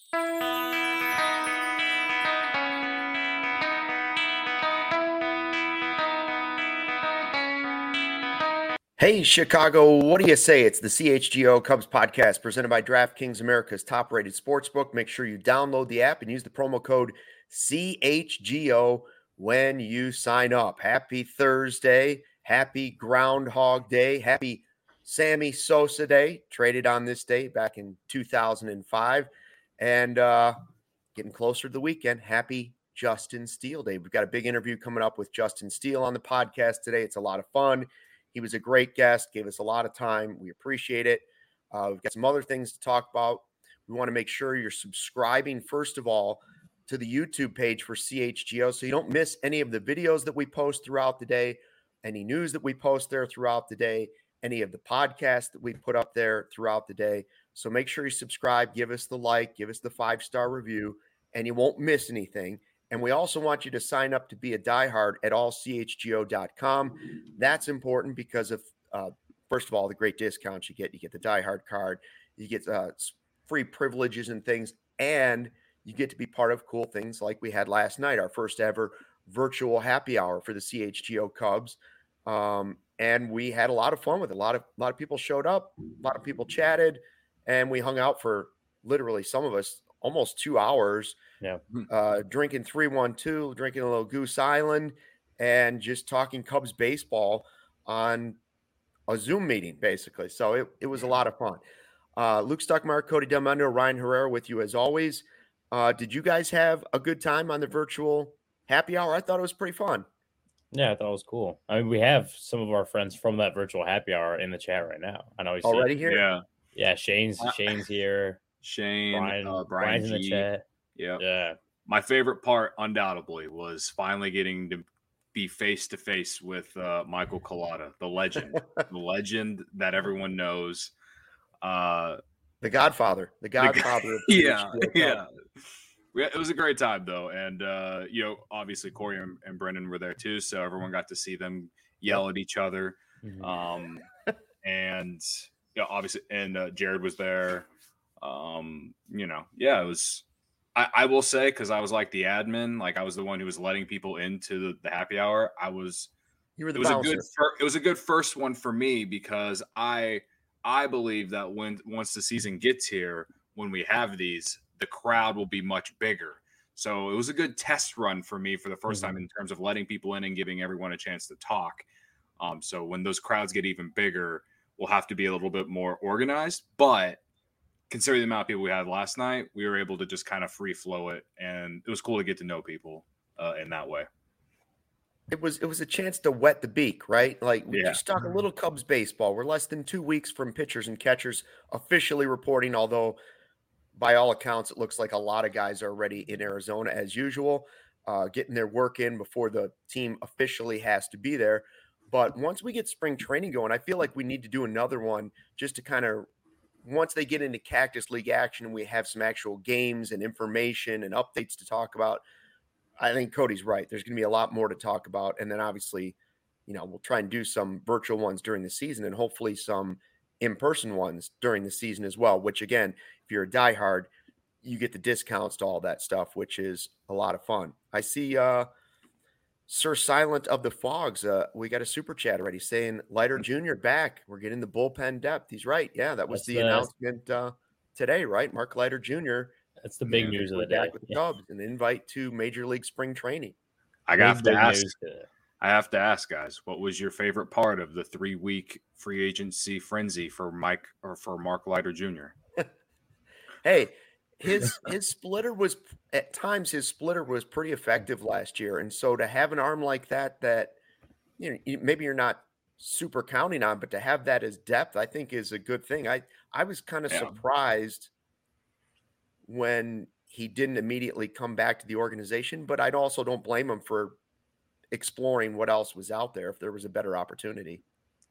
Hey, Chicago, what do you say? It's the CHGO Cubs podcast presented by DraftKings, America's top-rated sportsbook. Make sure you download the app and use the promo code CHGO when you sign up. Happy Thursday. Happy Groundhog Day. Happy Sammy Sosa Day. Traded on this day back in 2005. And getting closer to the weekend. Happy Justin Steele Day. We've got a big interview coming up with Justin Steele on the podcast today. It's a lot of fun. He was a great guest, gave us a lot of time. We appreciate it. We've got some other things to talk about. We want to make sure you're subscribing, first of all, to the YouTube page for CHGO so you don't miss any of the videos that we post throughout the day, any news that we post there throughout the day, any of the podcasts that we put up there throughout the day. So make sure you subscribe, give us the like, give us the 5-star review, and you won't miss anything. And we also want you to sign up to be a diehard at allchgo.com. That's important because of, first of all, the great discounts you get. You get the diehard card, you get free privileges and things, and you get to be part of cool things like we had last night, our first ever virtual happy hour for the CHGO Cubs. And we had a lot of fun with it. A lot of people showed up, a lot of people chatted, and we hung out for literally, some of us, almost 2 hours. Yeah. Drinking 312, drinking a little Goose Island, and just talking Cubs baseball on a Zoom meeting, basically. So it was a lot of fun. Luke Stuckmeyer, Cody Delmendo, Ryan Herrera with you as always. Did you guys have a good time on the virtual happy hour? I thought it was pretty fun. Yeah, I thought it was cool. I mean, we have some of our friends from that virtual happy hour in the chat right now. I know he's already here. Yeah. Shane's here. Brian's in the chat. Yeah. My favorite part, undoubtedly, was finally getting to be face to face with Michael Collada, the legend that everyone knows. The Godfather. Yeah. It was a great time, though. And, obviously Corey and Brendan were there, too. So everyone got to see them yell at each other. Mm-hmm. And, obviously, and Jared was there. It was. I will say, because I was like the admin, like I was the one who was letting people into the happy hour. You were the bouncer. It was a good first one for me because I believe that once the season gets here, when we have these, the crowd will be much bigger. So it was a good test run for me for the first time in terms of letting people in and giving everyone a chance to talk. So when those crowds get even bigger, we'll have to be a little bit more organized, but considering the amount of people we had last night, we were able to just kind of free flow it, and it was cool to get to know people in that way. It was a chance to wet the beak, right? Like we just talk a little Cubs baseball. We're less than 2 weeks from pitchers and catchers officially reporting, although by all accounts, it looks like a lot of guys are already in Arizona as usual, getting their work in before the team officially has to be there. But once we get spring training going, I feel like we need to do another one just to kind of, once they get into Cactus League action and we have some actual games and information and updates to talk about, I think Cody's right. There's going to be a lot more to talk about. And then obviously, we'll try and do some virtual ones during the season and hopefully some in-person ones during the season as well, which again, if you're a diehard, you get the discounts to all that stuff, which is a lot of fun. I see Sir Silent of the Fogs. We got a super chat already saying Leiter Jr. back. We're getting the bullpen depth. He's right. Yeah, that's the announcement today, right? Mark Leiter Jr. That's the big news of the day. Back with the Cubs, an invite to Major League Spring Training. I have to ask, guys, what was your favorite part of the 3-week free agency frenzy for Mark Leiter Jr.? Hey, his splitter was at times pretty effective last year, and so to have an arm like that maybe you're not super counting on, but to have that as depth, I think is a good thing. I was kind of surprised when he didn't immediately come back to the organization, but I also don't blame him for exploring what else was out there if there was a better opportunity.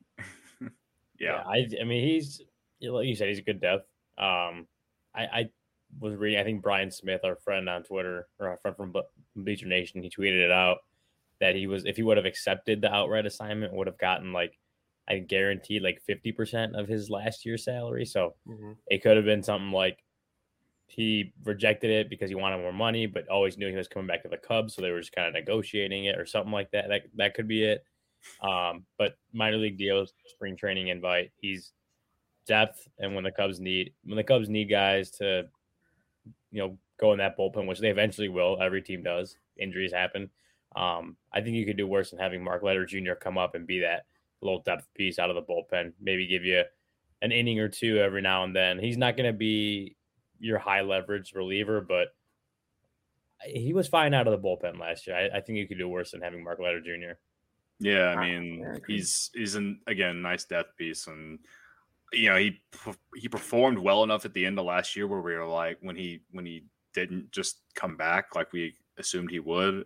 I mean, he's, like you said, he's a good depth. I was reading, I think Brian Smith, our friend on Twitter, or our friend from Bleacher Nation, he tweeted it out that if he would have accepted the outright assignment, would have gotten I guaranteed 50% of his last year's salary. So it could have been something like he rejected it because he wanted more money, but always knew he was coming back to the Cubs, so they were just kind of negotiating it or something like that. That could be it. But minor league deals, spring training invite. He's depth, and when the Cubs need guys to, go in that bullpen, which they eventually will. Every team does. Injuries happen. I think you could do worse than having Mark Leiter Jr. come up and be that little depth piece out of the bullpen. Maybe give you an inning or two every now and then. He's not going to be your high leverage reliever, but he was fine out of the bullpen last year. I think you could do worse than having Mark Leiter Jr. Yeah, I mean, he's again nice depth piece, and he performed well enough at the end of last year where we were like, when he didn't just come back like we assumed he would.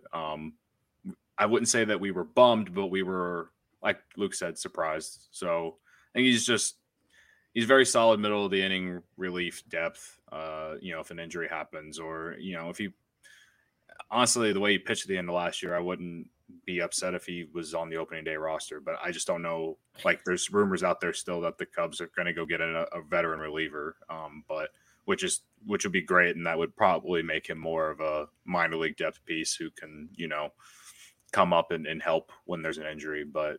I wouldn't say that we were bummed, but we were, like Luke said, surprised. So I think he's very solid middle of the inning relief depth. If an injury happens, or if he honestly, the way he pitched at the end of last year, I wouldn't be upset if he was on the opening day roster, but I just don't know. Like, there's rumors out there still that the Cubs are going to go get a veteran reliever, but which would be great, and that would probably make him more of a minor league depth piece who can come up and help when there's an injury. But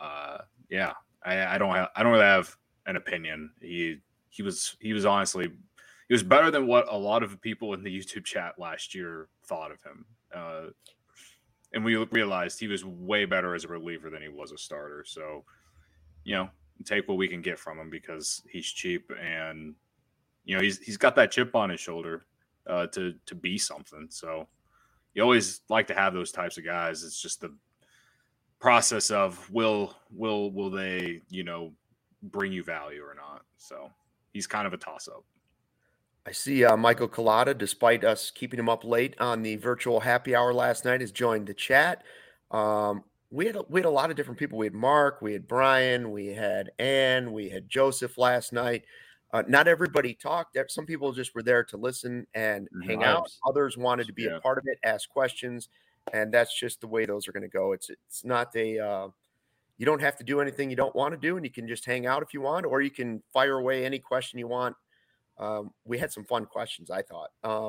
I don't really have an opinion. He was honestly, he was better than what a lot of people in the YouTube chat last year thought of him. And we realized he was way better as a reliever than he was a starter. So, take what we can get from him because he's cheap, and he's got that chip on his shoulder to be something. So you always like to have those types of guys. It's just the process of will they bring you value or not. So he's kind of a toss up. I see Michael Collada, despite us keeping him up late on the virtual happy hour last night, has joined the chat. We had a lot of different people. We had Mark, we had Brian, we had Ann, we had Joseph last night. Not everybody talked. Some people just were there to listen and hang out. Others wanted to be a part of it, ask questions, and that's just the way those are going to go. It's not you don't have to do anything you don't want to do, and you can just hang out if you want, or you can fire away any question you want. We had some fun questions, I thought.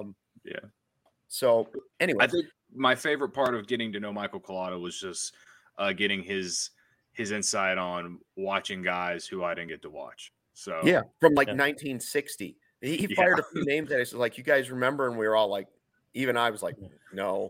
So anyway, I think my favorite part of getting to know Michael Collada was just getting his insight on watching guys who I didn't get to watch. So from 1960, he fired a few names that I said, like, you guys remember, and we were all like, even I was like, no.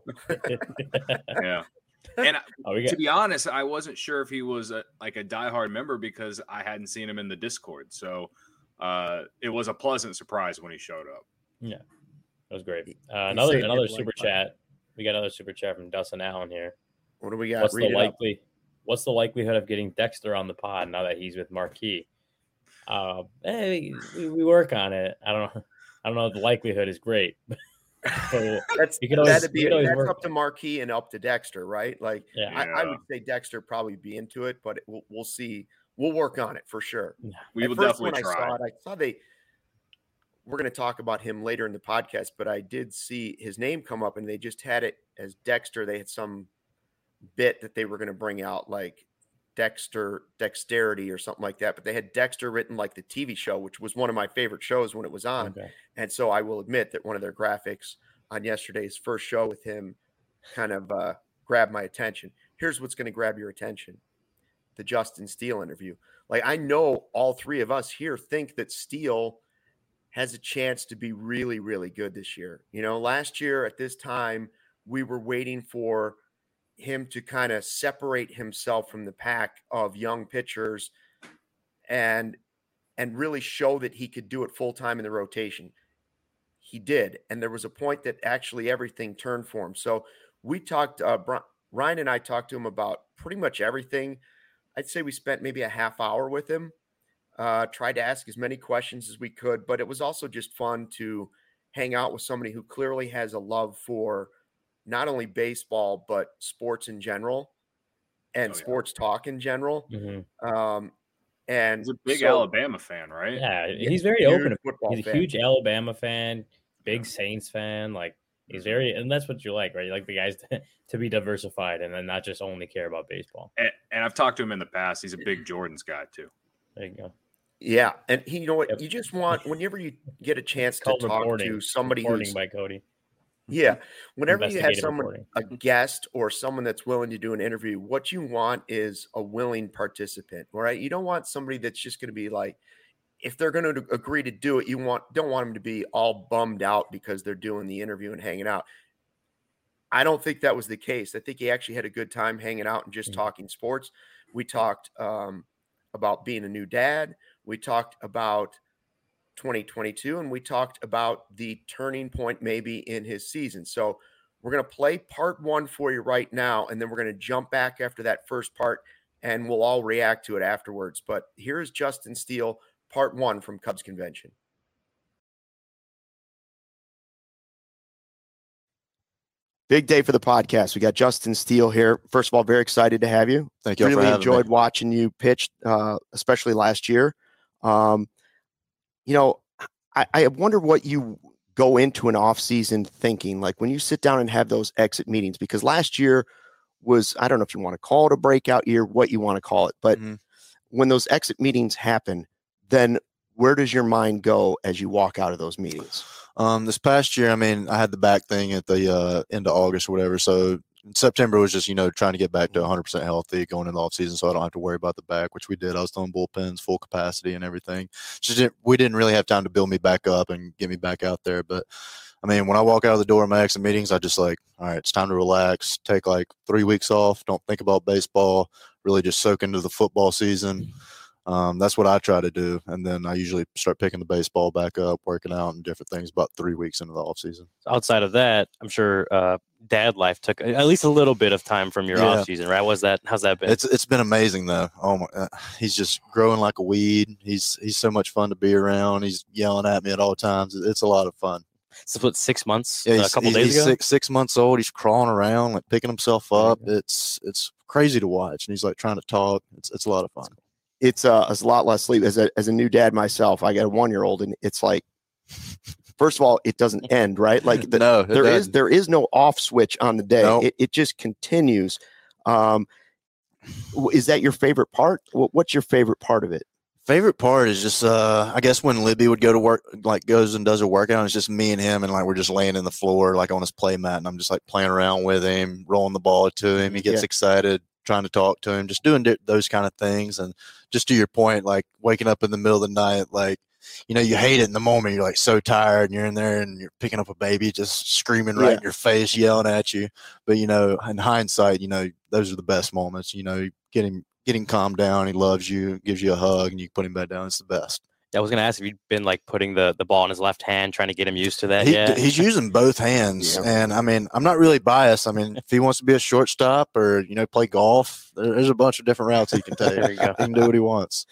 And to be honest, I wasn't sure if he was a diehard member because I hadn't seen him in the Discord. So it was a pleasant surprise when he showed up. Yeah, that was great. Another super chat. We got another super chat from Dustin Allen here. What do we got? What's the likelihood of getting Dexter on the pod now that he's with Marquee? We work on it. I don't know if the likelihood is great. So that's up to Marquee and up to Dexter, right? Like, I would say Dexter probably be into it, but we'll see. We'll work on it for sure. We will definitely try. I saw we're going to talk about him later in the podcast, but I did see his name come up, and they just had it as Dexter. They had some bit that they were going to bring out, like Dexterity or something like that, but they had Dexter written like the TV show, which was one of my favorite shows when it was on. Okay. And so I will admit that one of their graphics on yesterday's first show with him kind of grabbed my attention. Here's what's going to grab your attention: the Justin Steele interview. Like, I know all three of us here think that Steele has a chance to be really, really good this year. Last year at this time, we were waiting for him to kind of separate himself from the pack of young pitchers and really show that he could do it full time in the rotation. He did. And there was a point that actually everything turned for him. So we talked, Ryan and I talked to him about pretty much everything. I'd say we spent maybe a half hour with him, tried to ask as many questions as we could, but it was also just fun to hang out with somebody who clearly has a love for not only baseball, but sports in general and sports talk in general. Mm-hmm. And he's a big Alabama fan, right? Yeah, he's very open. He's a huge Alabama fan, big Saints fan. Like, he's very, and that's what you like, right? You like the guys to be diversified and then not just only care about baseball. And I've talked to him in the past. He's a big Jordans guy too. There you go. Yeah, and you know what? Yep. You just want whenever you get a chance to Called talk to somebody reporting who's by Cody. yeah, whenever you have Investigative someone, reporting. a guest or someone that's willing to do an interview, what you want is a willing participant, right? You don't want somebody that's just going to be like, if they're going to agree to do it, don't want them to be all bummed out because they're doing the interview and hanging out. I don't think that was the case. I think he actually had a good time hanging out and just talking sports. We talked about being a new dad. We talked about 2022, and we talked about the turning point maybe in his season. So we're going to play part 1 for you right now, and then we're going to jump back after that first part, and we'll all react to it afterwards. But here's Justin Steele, part 1 from Cubs Convention. Big day for the podcast. We got Justin Steele here. First of all, very excited to have you. Thank you. Really enjoyed watching you pitch, especially last year. You know, I wonder what you go into an off season thinking, like when you sit down and have those exit meetings, because last year was, I don't know if you want to call it a breakout year, what you want to call it, but when those exit meetings happen, then where does your mind go as you walk out of those meetings? This past year, I mean, I had the back thing at the end of August or whatever. So September was just, trying to get back to 100% healthy going into the offseason so I don't have to worry about the back, which we did. I was throwing bullpens, full capacity and everything. We didn't really have time to build me back up and get me back out there. But, I mean, when I walk out of the door of my exit meetings, I just all right, it's time to relax, take 3 weeks off, don't think about baseball, really just soak into the football season. That's what I try to do. And then I usually start picking the baseball back up, working out and different things about 3 weeks into the off season. Outside of that, I'm sure dad life took at least a little bit of time from your off season, right? How's that been? It's been amazing though. Oh my, he's just growing like a weed. He's so much fun to be around. He's yelling at me at all times. It's a lot of fun. So what, 6 months? Yeah, a couple days ago? He's 6 months old. He's crawling around, picking himself up. It's crazy to watch. And he's trying to talk. It's a lot of fun. It's a lot less sleep. As a new dad myself, I got a 1-year-old, and it's first of all, it doesn't end, right? There is no off switch on the day. Nope. It just continues. Is that your favorite part? What's your favorite part of it? Favorite part is just, I guess when Libby would go to work, goes and does a workout, it's just me and him, and we're just laying in the floor, on his play mat, and I'm just playing around with him, rolling the ball to him. He gets excited, trying to talk to him, just doing those kind of things. And just to your point, waking up in the middle of the night, you hate it in the moment. You're so tired, and you're in there and you're picking up a baby, just screaming right in your face, yelling at you. But, in hindsight, those are the best moments, getting calmed down. He loves you, gives you a hug, and you put him back down. It's the best. I was going to ask if you'd been putting the ball in his left hand, trying to get him used to that. He's using both hands. And I mean, I'm not really biased. I mean, if he wants to be a shortstop or, play golf, there's a bunch of different routes he can take. There you go. He can do what he wants.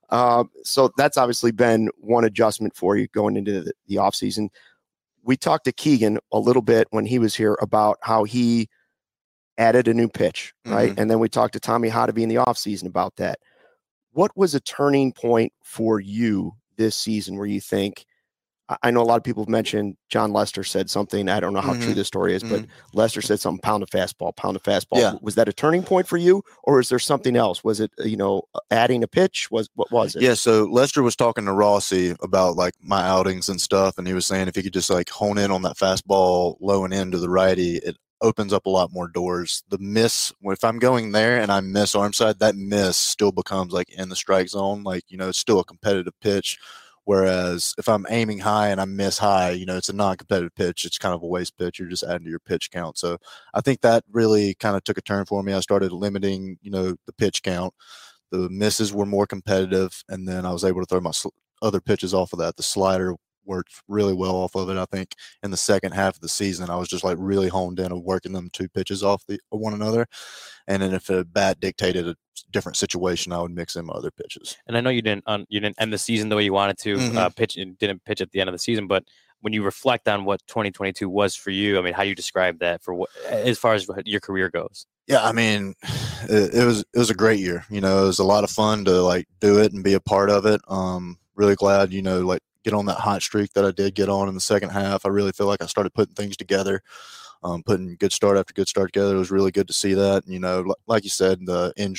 So that's obviously been one adjustment for you going into the offseason. We talked to Keegan a little bit when he was here about how he added a new pitch, right? And then we talked to Tommy Hotovy in the offseason about that. What was a turning point for you this season where you think, I know a lot of people have mentioned John Lester said something. I don't know how true this story is, but Lester said something, pound of fastball. Yeah. Was that a turning point for you, or is there something else? Was it, adding a pitch? What was it? Yeah. So Lester was talking to Rossi about my outings and stuff. And he was saying if he could just hone in on that fastball low and in to the righty, it opens up a lot more doors. The miss, if I'm going there and I miss arm side, that miss still becomes in the strike zone. It's still a competitive pitch. Whereas if I'm aiming high and I miss high, it's a non-competitive pitch. It's kind of a waste pitch. You're just adding to your pitch count. So I think that really kind of took a turn for me. I started limiting, the pitch count. The misses were more competitive. And then I was able to throw my other pitches off of that. The slider worked really well off of it. I think in the second half of the season, I was just really honed in on working them 2 pitches off one another. And then if a bat dictated a different situation, I would mix in my other pitches. And I know you didn't end the season the way you wanted to pitch. You didn't pitch at the end of the season, but when you reflect on what 2022 was for you, I mean, how do you describe that as far as your career goes? Yeah, I mean, it was a great year. It was a lot of fun to do it and be a part of it. Really glad, get on that hot streak that I did get on in the second half. I really feel like I started putting things together, putting good start after good start together. It was really good to see that. Like you said, the injury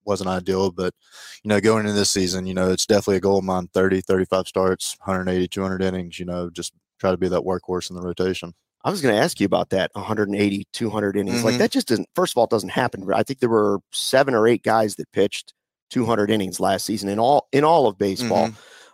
wasn't ideal, but, going into this season, it's definitely a goal of mine, 30, 35 starts, 180, 200 innings, just try to be that workhorse in the rotation. I was going to ask you about that 180, 200 innings. Like that just doesn't, first of all, it doesn't happen. I think there were 7 or 8 guys that pitched 200 innings last season in all of baseball.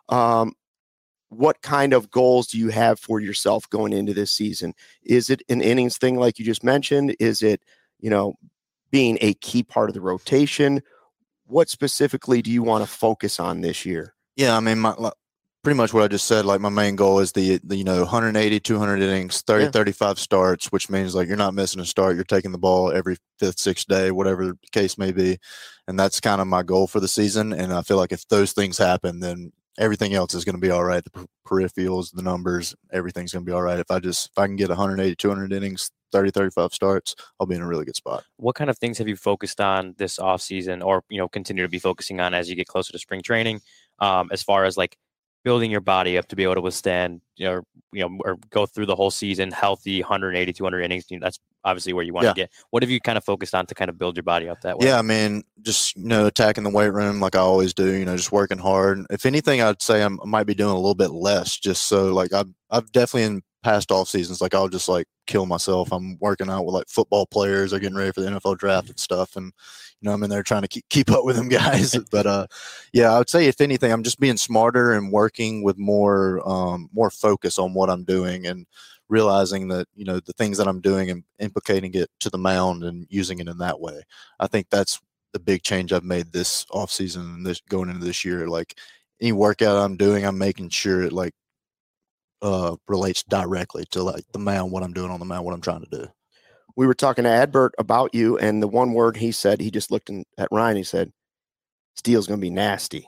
What kind of goals do you have for yourself going into this season? Is it an innings thing like you just mentioned? Is it, being a key part of the rotation? What specifically do you want to focus on this year? Yeah, I mean, pretty much what I just said. Like my main goal is the 180, 200 innings, 30, 35 starts, which means like you're not missing a start. You're taking the ball every 5th, 6th day, whatever the case may be. And that's kind of my goal for the season. And I feel like if those things happen, then everything else is going to be all right. The peripherals, the numbers, everything's going to be all right. If I can get 180, 200 innings, 30, 35 starts, I'll be in a really good spot. What kind of things have you focused on this offseason or, continue to be focusing on as you get closer to spring training, as far as like building your body up to be able to withstand, or go through the whole season healthy, 180, 200 innings? That's obviously where you want to get. What have you kind of focused on to kind of build your body up that way? Yeah, I mean, just, attacking the weight room like I always do, just working hard. If anything, I'd say I might be doing a little bit less, just so like I've definitely in past off seasons, like I'll just like kill myself. I'm working out with like football players. They're getting ready for the NFL draft and stuff. And, I'm in there trying to keep up with them guys. But yeah, I would say if anything, I'm just being smarter and working with more focus on what I'm doing and realizing that, the things that I'm doing and implicating it to the mound and using it in that way. I think that's the big change I've made this off season and this going into this year. Like any workout I'm doing, I'm making sure it like relates directly to like the mound, what I'm doing on the mound, what I'm trying to do. We were talking to Adbert about you, and the one word he said, he just looked at Ryan, he said, Steele's going to be nasty.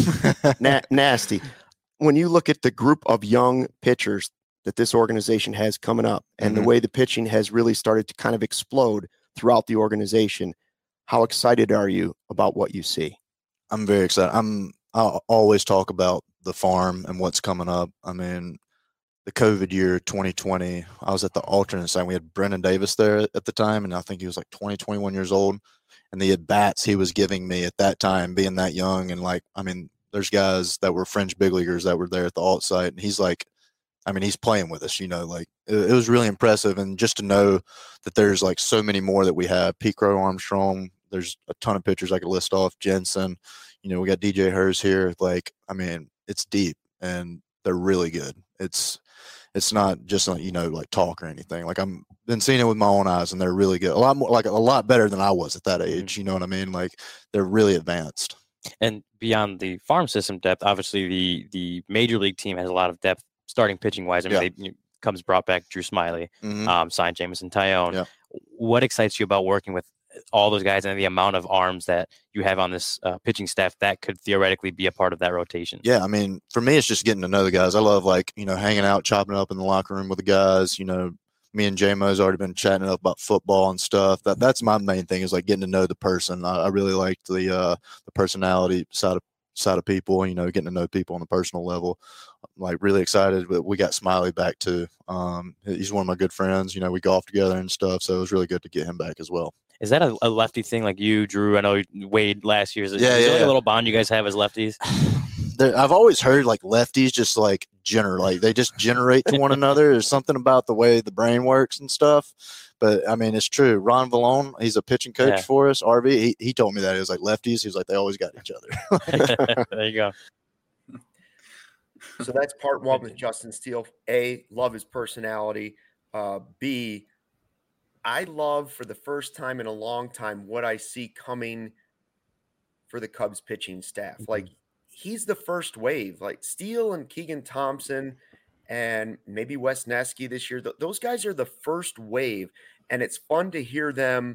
Nasty. When you look at the group of young pitchers that this organization has coming up and the way the pitching has really started to kind of explode throughout the organization, how excited are you about what you see? I'm very excited. I'll always talk about the farm and what's coming up. I mean, the COVID year, 2020, I was at the alternate side. We had Brendan Davis there at the time, and I think he was like 20, 21 years old. And the at-bats he was giving me at that time, being that young, and like, I mean, there's guys that were fringe big leaguers that were there at the alt site, and he's like, I mean, he's playing with us, like it was really impressive. And just to know that there's like so many more that we have, Pete Crow Armstrong, there's a ton of pitchers I could list off, Jensen, we got DJ Hers here. Like, I mean, it's deep and they're really good. It's not just like, like talk or anything. Like I'm been seeing it with my own eyes and they're really good. A lot more, like a lot better than I was at that age. You know what I mean? Like they're really advanced. And beyond the farm system depth, obviously the major league team has a lot of depth starting pitching wise. I mean, Cubs brought back Drew Smyly, signed Jameson Tyone. Yeah. What excites you about working with all those guys and the amount of arms that you have on this pitching staff that could theoretically be a part of that rotation? Yeah, I mean, for me, it's just getting to know the guys. I love like, hanging out, chopping it up in the locker room with the guys. Me and J-Mo's already been chatting up about football and stuff. That's my main thing is like getting to know the person. I really like the personality side of people, getting to know people on a personal level. I'm like really excited. But we got Smyly back too. He's one of my good friends. We golf together and stuff. So it was really good to get him back as well. Is that a lefty thing like you, Drew? I know Wade last year. Is there like a little bond you guys have as lefties? I've always heard like lefties just like they just generate to one another. There's something about the way the brain works and stuff. But I mean, it's true. Ron Vallone, he's a pitching coach for us. RV, he told me that. He was like lefties. He was like, they always got each other. There you go. So that's part one with Justin Steele. A, love his personality. B, I love for the first time in a long time what I see coming for the Cubs pitching staff. Like he's the first wave, like Steele and Keegan Thompson and maybe Wes Neski this year. Those guys are the first wave. And it's fun to hear them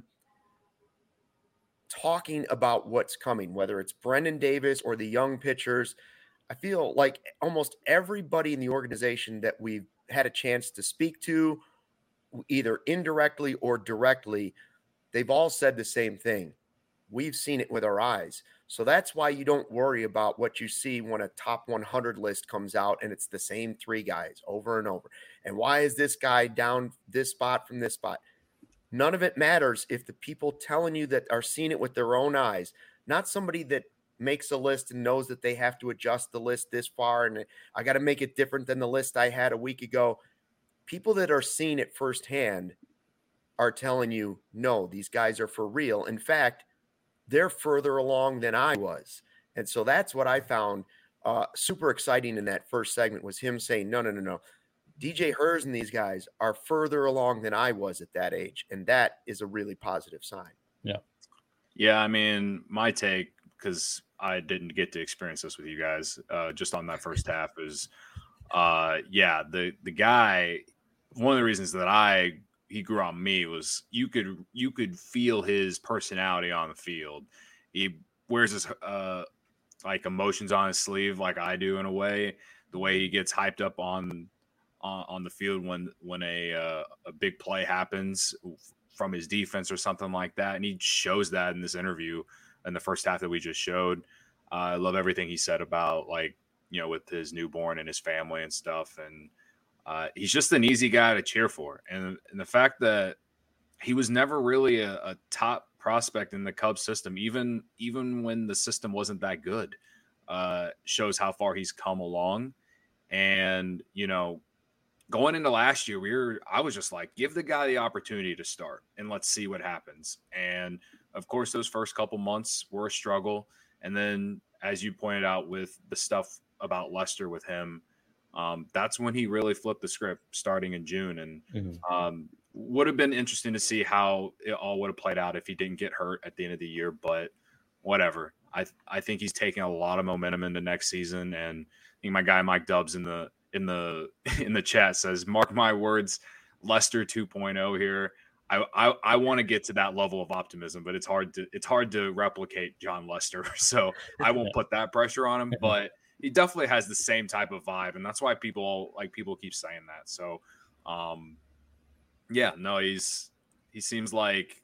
talking about what's coming, whether it's Brendan Davis or the young pitchers. I feel like almost everybody in the organization that we've had a chance to speak to, either indirectly or directly, they've all said the same thing. We've seen it with our eyes. So that's why you don't worry about what you see when a top 100 list comes out and it's the same 3 guys over and over. And why is this guy down this spot from this spot? None of it matters if the people telling you that are seeing it with their own eyes not somebody that makes a list and knows that they have to adjust the list this far and I got to make it different than the list I had a week ago. People that are seeing it firsthand are telling you, no, these guys are for real. In fact, they're further along than I was. And so that's what I found super exciting in that first segment was him saying, no. DJ Hers and these guys are further along than I was at that age. And that is a really positive sign. Yeah. Yeah. I mean, my take, because I didn't get to experience this with you guys just on that first half is, the guy, one of the reasons that he grew on me was you could feel his personality on the field. He wears his like emotions on his sleeve, like I do in a way. The way he gets hyped up on the field when a big play happens from his defense or something like that, and he shows that in this interview in the first half that we just showed. I love everything he said about with his newborn and his family and stuff, and he's just an easy guy to cheer for. And the fact that he was never really a top prospect in the Cubs system, even when the system wasn't that good, shows how far he's come along. And, going into last year, I was just like, give the guy the opportunity to start and let's see what happens. And of course, those first couple months were a struggle. And then, as you pointed out with the stuff about Lester with him, that's when he really flipped the script starting in June. And would have been interesting to see how it all would have played out if he didn't get hurt at the end of the year, but whatever. I think he's taking a lot of momentum into next season. And I think my guy, Mike Dubs in the chat says, mark my words, Lester 2.0 here. I want to get to that level of optimism, but it's hard to replicate John Lester. So I won't put that pressure on him, but he definitely has the same type of vibe. And that's why people keep saying that. So, he seems like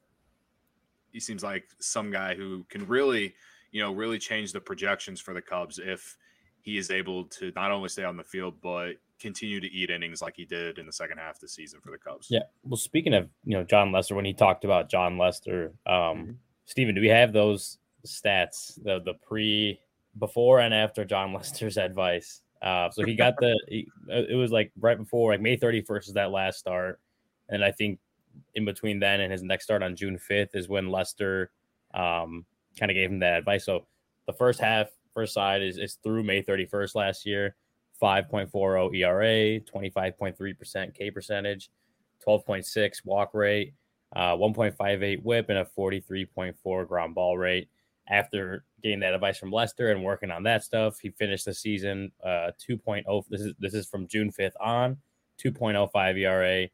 some guy who can really change the projections for the Cubs if he is able to not only stay on the field, but continue to eat innings like he did in the second half of the season for the Cubs. Yeah. Well, speaking of, John Lester, when he talked about John Lester, Steven, do we have those stats, the before and after John Lester's advice? So he got it was like right before, like May 31st is that last start. And I think in between then and his next start on June 5th is when Lester kind of gave him that advice. So the first side is through May 31st last year, 5.40 ERA, 25.3% K percentage, 12.6 walk rate, 1.58 whip, and a 43.4 ground ball rate. After getting that advice from Lester and working on that stuff, he finished the season 2.0. This is from June 5th on, 2.05 ERA,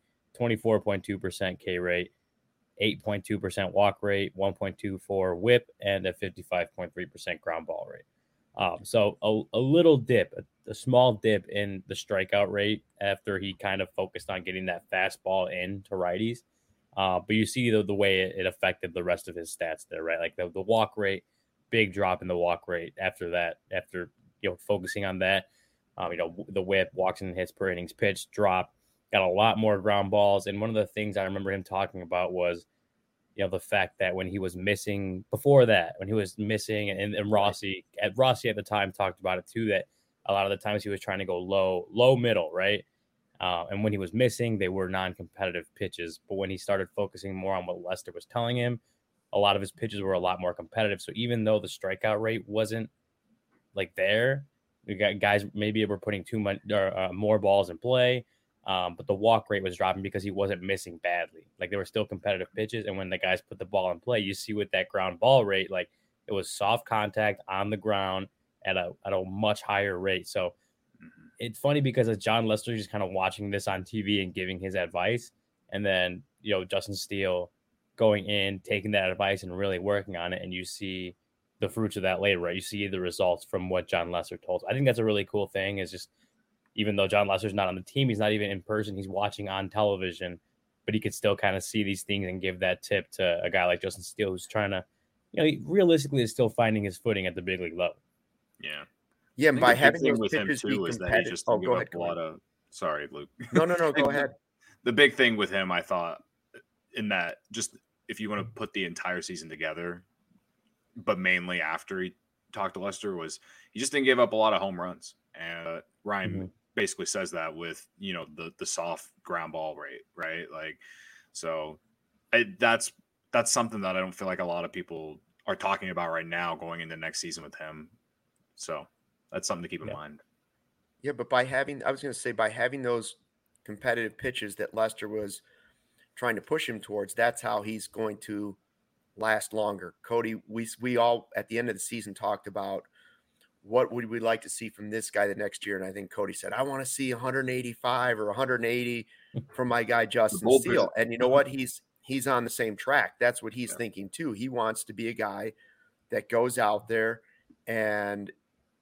24.2% K rate, 8.2% walk rate, 1.24 whip, and a 55.3% ground ball rate. So a little dip, a small dip in the strikeout rate after he kind of focused on getting that fastball in to righties. But you see the way it affected the rest of his stats there, right? Like the walk rate, big drop in the walk rate after that, focusing on that. The whip, walks and hits per innings pitched drop, got a lot more ground balls. And one of the things I remember him talking about was, the fact that when he was missing before that, and Rossi at the time talked about it too, that a lot of the times he was trying to go low middle, right? And when he was missing, they were non-competitive pitches. But when he started focusing more on what Lester was telling him, a lot of his pitches were a lot more competitive. So even though the strikeout rate wasn't like there, we got guys maybe were putting too much more balls in play. But the walk rate was dropping because he wasn't missing badly. Like there were still competitive pitches. And when the guys put the ball in play, you see with that ground ball rate, like it was soft contact on the ground at a much higher rate. So it's funny because as John Lester just kind of watching this on TV and giving his advice. And then, Justin Steele going in, taking that advice and really working on it. And you see the fruits of that later, right? You see the results from what John Lester told. I think that's a really cool thing is just, even though John Lester's not on the team, he's not even in person, he's watching on television, but he could still kind of see these things and give that tip to a guy like Justin Steele, who's trying to, he realistically is still finding his footing at the big league level. Yeah. Yeah. And by having those with him pitches too be is that he just go give ahead, up a lot of, sorry, Luke. No, go ahead. The big thing with him, I thought, in that just if you want to put the entire season together, but mainly after he talked to Lester, was he just didn't give up a lot of home runs. And Ryan basically says that with, the soft ground ball rate, right? Like, so that's something that I don't feel like a lot of people are talking about right now going into next season with him. So that's something to keep in mind. Yeah, but by having those competitive pitches that Lester was trying to push him towards, that's how he's going to last longer. Cody, we all at the end of the season talked about what would we like to see from this guy the next year, and I think Cody said, I want to see 185 or 180 from my guy Justin Steele. And you know what? He's on the same track. That's what he's thinking too. He wants to be a guy that goes out there and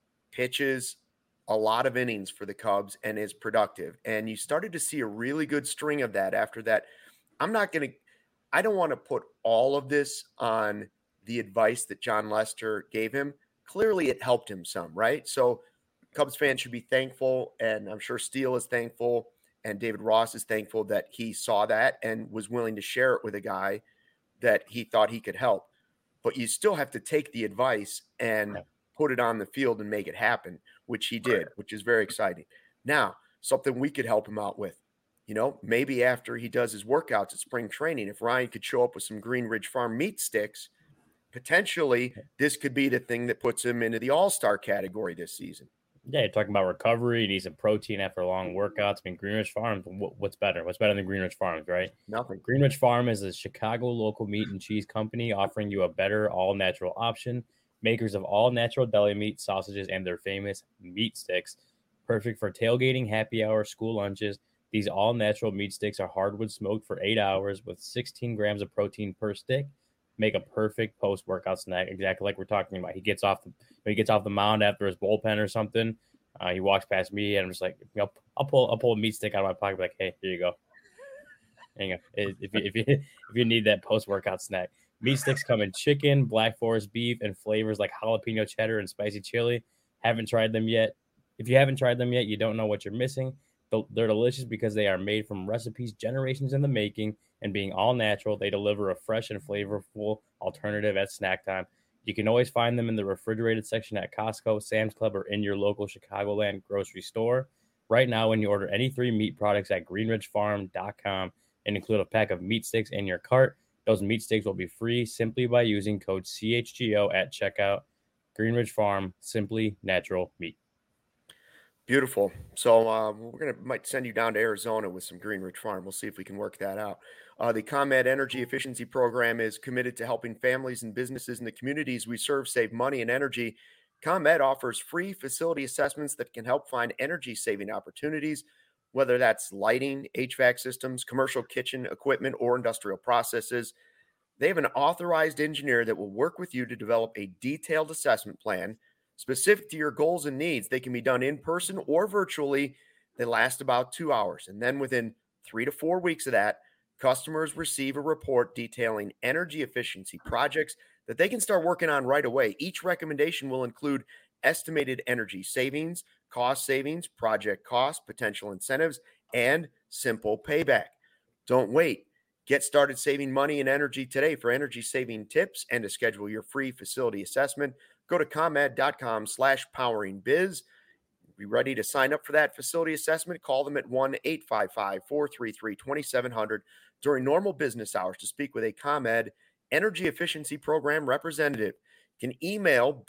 pitches a lot of innings for the Cubs and is productive. And you started to see a really good string of that after that. I don't want to put all of this on the advice that John Lester gave him. Clearly it helped him some, right? So Cubs fans should be thankful, and I'm sure Steele is thankful, and David Ross is thankful that he saw that and was willing to share it with a guy that he thought he could help. But you still have to take the advice and put it on the field and make it happen, which he did, which is very exciting. Now, something we could help him out with, maybe after he does his workouts at spring training, if Ryan could show up with some Green Ridge Farm meat sticks, potentially this could be the thing that puts him into the all-star category this season. Yeah, you're talking about recovery. He needs some protein after long workouts. I mean, Green Ridge Farms, what's better? What's better than Green Ridge Farms, right? Nothing. Green Ridge Farm is a Chicago local meat and cheese company offering you a better all-natural option. Makers of all-natural deli meat, sausages, and their famous meat sticks. Perfect for tailgating, happy hour, school lunches. These all-natural meat sticks are hardwood smoked for 8 hours with 16 grams of protein per stick. Make a perfect post-workout snack, exactly like we're talking about. He gets off the mound after his bullpen or something. He walks past me, and I'm just like, I'll pull a meat stick out of my pocket, like, hey, here you go. There you go. If you need that post-workout snack. Meat sticks come in chicken, Black Forest beef, and flavors like jalapeno cheddar and spicy chili. Haven't tried them yet? If you haven't tried them yet, you don't know what you're missing. They're delicious because they are made from recipes generations in the making, and being all natural, they deliver a fresh and flavorful alternative at snack time. You can always find them in the refrigerated section at Costco, Sam's Club, or in your local Chicagoland grocery store. Right now, when you order any 3 meat products at greenridgefarm.com and include a pack of meat sticks in your cart, those meat sticks will be free simply by using code CHGO at checkout. Greenridge Farm, simply natural meat. Beautiful. So might send you down to Arizona with some Green Ridge Farm. We'll see if we can work that out. The ComEd Energy Efficiency Program is committed to helping families and businesses in the communities we serve save money and energy. ComEd offers free facility assessments that can help find energy-saving opportunities, whether that's lighting, HVAC systems, commercial kitchen equipment, or industrial processes. They have an authorized engineer that will work with you to develop a detailed assessment plan specific to your goals and needs. They can be done in person or virtually. They last about 2 hours. And then within 3 to 4 weeks of that, customers receive a report detailing energy efficiency projects that they can start working on right away. Each recommendation will include estimated energy savings, cost savings, project costs, potential incentives, and simple payback. Don't wait. Get started saving money and energy today. For energy saving tips and to schedule your free facility assessment, go to comed.com/poweringbiz. Be ready to sign up for that facility assessment. Call them at 1-855-433-2700 during normal business hours to speak with a ComEd Energy Efficiency Program representative. You can email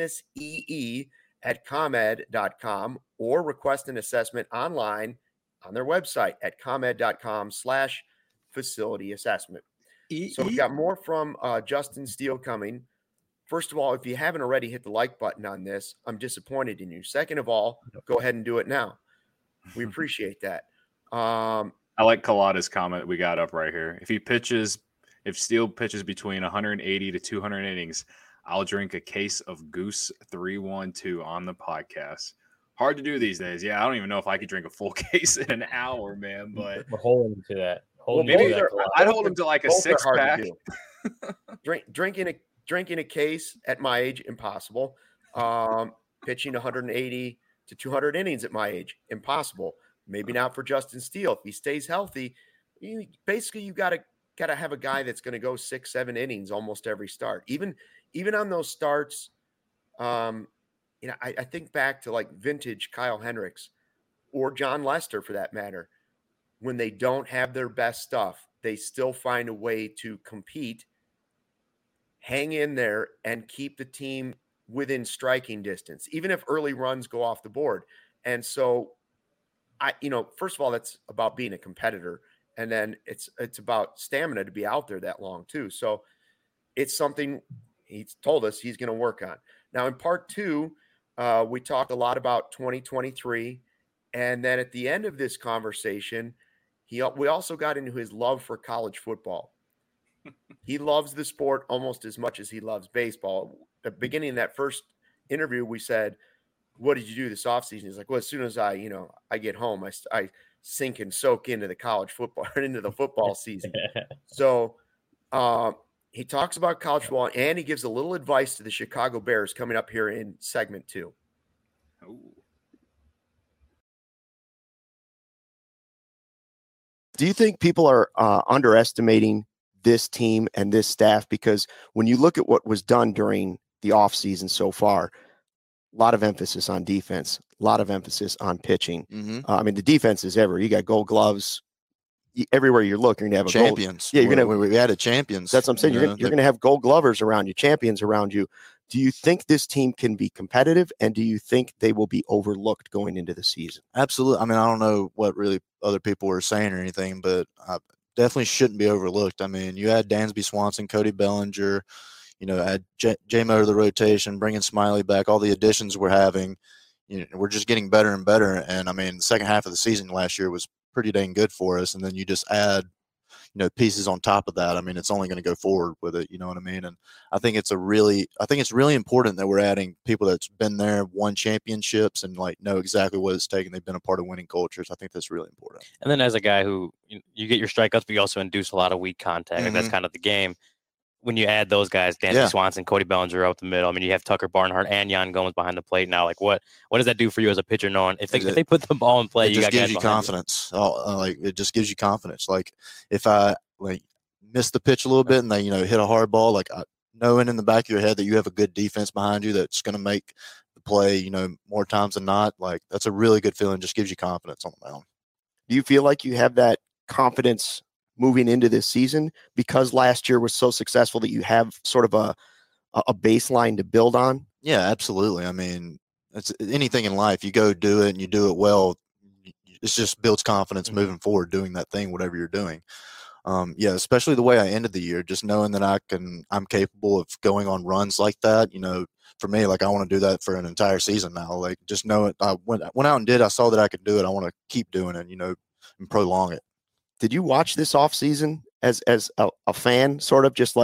businessee@comed.com or request an assessment online on their website at comed.com/facility assessment. So we've got more from Justin Steele coming. First of all, if you haven't already hit the like button on this, I'm disappointed in you. Second of all, go ahead and do it now. We appreciate that. I like Kalada's comment we got up right here. If Steele pitches between 180 to 200 innings, I'll drink a case of Goose 312 on the podcast. Hard to do these days. Yeah, I don't even know if I could drink a full case in an hour, man. But we're holding to that. I'd hold him to like a 6-pack. Drinking a case at my age, impossible. Pitching 180 to 200 innings at my age, impossible. Maybe not for Justin Steele. If he stays healthy, you got to have a guy that's going to go 6-7 innings almost every start. Even even on those starts, I think back to like vintage Kyle Hendricks or John Lester for that matter. When they don't have their best stuff, they still find a way to compete, hang in there, and keep the team within striking distance, even if early runs go off the board. And so first of all, that's about being a competitor. And then it's about stamina to be out there that long too. So it's something he's told us he's going to work on. Now in part 2, we talked a lot about 2023. And then at the end of this conversation, we also got into his love for college football. He loves the sport almost as much as he loves baseball. At the beginning of that first interview, we said, what did you do this offseason? He's like, well, as soon as I get home, I sink and soak into the college football, into the football season. So he talks about college football, and he gives a little advice to the Chicago Bears coming up here in segment 2. Ooh. Do you think people are underestimating this team and this staff? Because when you look at what was done during the offseason so far, a lot of emphasis on defense, a lot of emphasis on pitching. Mm-hmm. The defense is everywhere. You got gold gloves. Everywhere you look, you're going to have champions. You're going to. We added champions. That's what I'm saying. You're going to have gold glovers around you, champions around you. Do you think this team can be competitive, and do you think they will be overlooked going into the season? Absolutely. I don't know what really other people were saying or anything, but definitely shouldn't be overlooked. You had Dansby Swanson, Cody Bellinger, add J-Mo to the rotation, bringing Smiley back, all the additions we're having. We're just getting better and better. And the second half of the season last year was pretty dang good for us. And then you just add, pieces on top of that. It's only going to go forward with it. You know what I mean? And I think it's really important that we're adding people that's been there, won championships, and know exactly what it's taken. They've been a part of winning cultures. I think that's really important. And then as a guy who you get your strikeouts, but you also induce a lot of weak contact. Mm-hmm. That's kind of the game. When you add those guys, Dansby Swanson, Cody Bellinger out the middle, you have Tucker Barnhart and Yan Gomes behind the plate now. What does that do for you as a pitcher, knowing if they put the ball in play, it just gives you confidence. It just gives you confidence. If I miss the pitch a little bit and they hit a hard ball, knowing in the back of your head that you have a good defense behind you that's going to make the play, more times than not, that's a really good feeling. Just gives you confidence on the mound. Do you feel like you have that confidence moving into this season because last year was so successful that you have sort of a baseline to build on? Yeah, absolutely. It's anything in life. You go do it and you do it well. It just builds confidence moving forward, doing that thing, whatever you're doing. Especially the way I ended the year, just knowing that I'm capable of going on runs like that. For me, I want to do that for an entire season now. Just know it. I went out and did. I saw that I could do it. I want to keep doing it, and prolong it. Did you watch this offseason as a fan, sort of just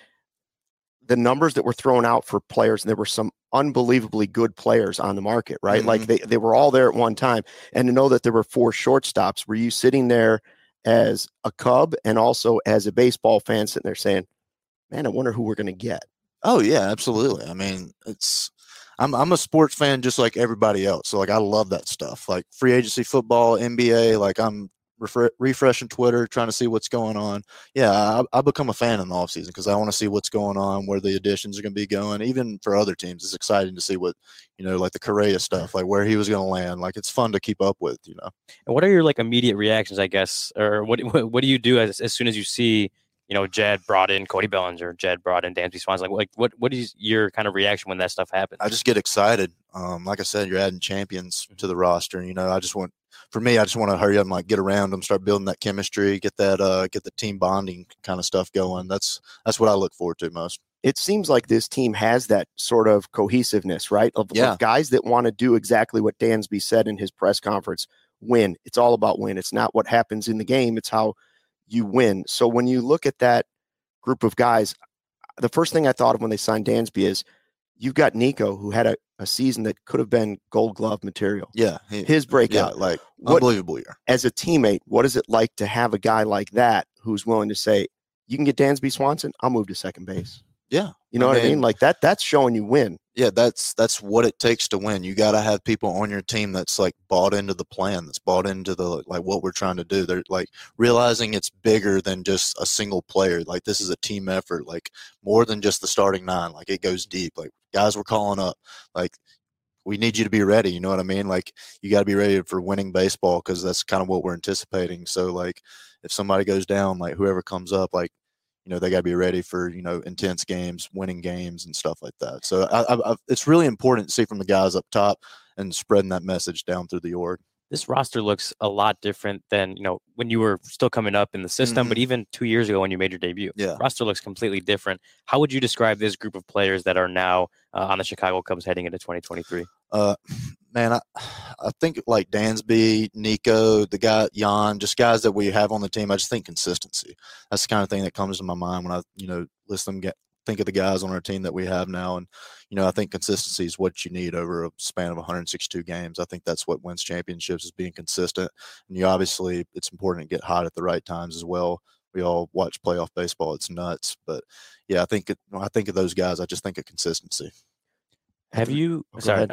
the numbers that were thrown out for players? And there were some unbelievably good players on the market, right? Mm-hmm. They were all there at one time. And to know that there were 4 shortstops, were you sitting there as a Cub and also as a baseball fan sitting there saying, man, I wonder who we're going to get? Oh, yeah, absolutely. I'm a sports fan just like everybody else. So I love that stuff, free agency football, NBA, I'm refreshing Twitter, trying to see what's going on. Yeah, I become a fan in the offseason because I want to see what's going on, where the additions are going to be going. Even for other teams, it's exciting to see what, the Correa stuff, where he was going to land. It's fun to keep up with, And what are your immediate reactions, I guess, or what do you do as soon as you see, Jed brought in Cody Bellinger, Jed brought in Dansby Swanson? What is your kind of reaction when that stuff happens? I just get excited. Like I said, you're adding champions to the roster. I just want to hurry up and get around them, start building that chemistry, get the team bonding kind of stuff going. That's what I look forward to most. It seems like this team has that sort of cohesiveness, right? Of guys that want to do exactly what Dansby said in his press conference: win. It's all about win. It's not what happens in the game. It's how you win. So when you look at that group of guys, the first thing I thought of when they signed Dansby is you've got Nico, who had a season that could have been Gold Glove material. Yeah. His breakout. Yeah, unbelievable year. As a teammate, what is it like to have a guy like that who's willing to say, you can get Dansby Swanson, I'll move to second base? Yeah. You know what I mean? Like that's showing you win. Yeah, that's what it takes to win. You got to have people on your team that's like bought into the plan, that's bought into the like what we're trying to do. They're like realizing it's bigger than just a single player. Like this is a team effort, like more than just the starting 9. Like it goes deep. Like guys we're calling up, like we need you to be ready. You know what I mean? Like you got to be ready for winning baseball because that's kind of what we're anticipating. So like if somebody goes down, like whoever comes up, like they got to be ready for, intense games, winning games and stuff like that. So it's really important to see from the guys up top and spreading that message down through the org. This roster looks a lot different than, when you were still coming up in the system, but even 2 years ago when you made your debut. Yeah. Roster looks completely different. How would you describe this group of players that are now on the Chicago Cubs heading into 2023? Man, I think like Dansby, Nico, the guy Jan, just guys that we have on the team. I just think consistency. That's the kind of thing that comes to my mind when I, think of the guys on our team that we have now. And, I think consistency is what you need over a span of 162 games. I think that's what wins championships, is being consistent. And obviously it's important to get hot at the right times as well. We all watch playoff baseball. It's nuts. But yeah, when I think of those guys, I just think of consistency. Have you, Go ahead.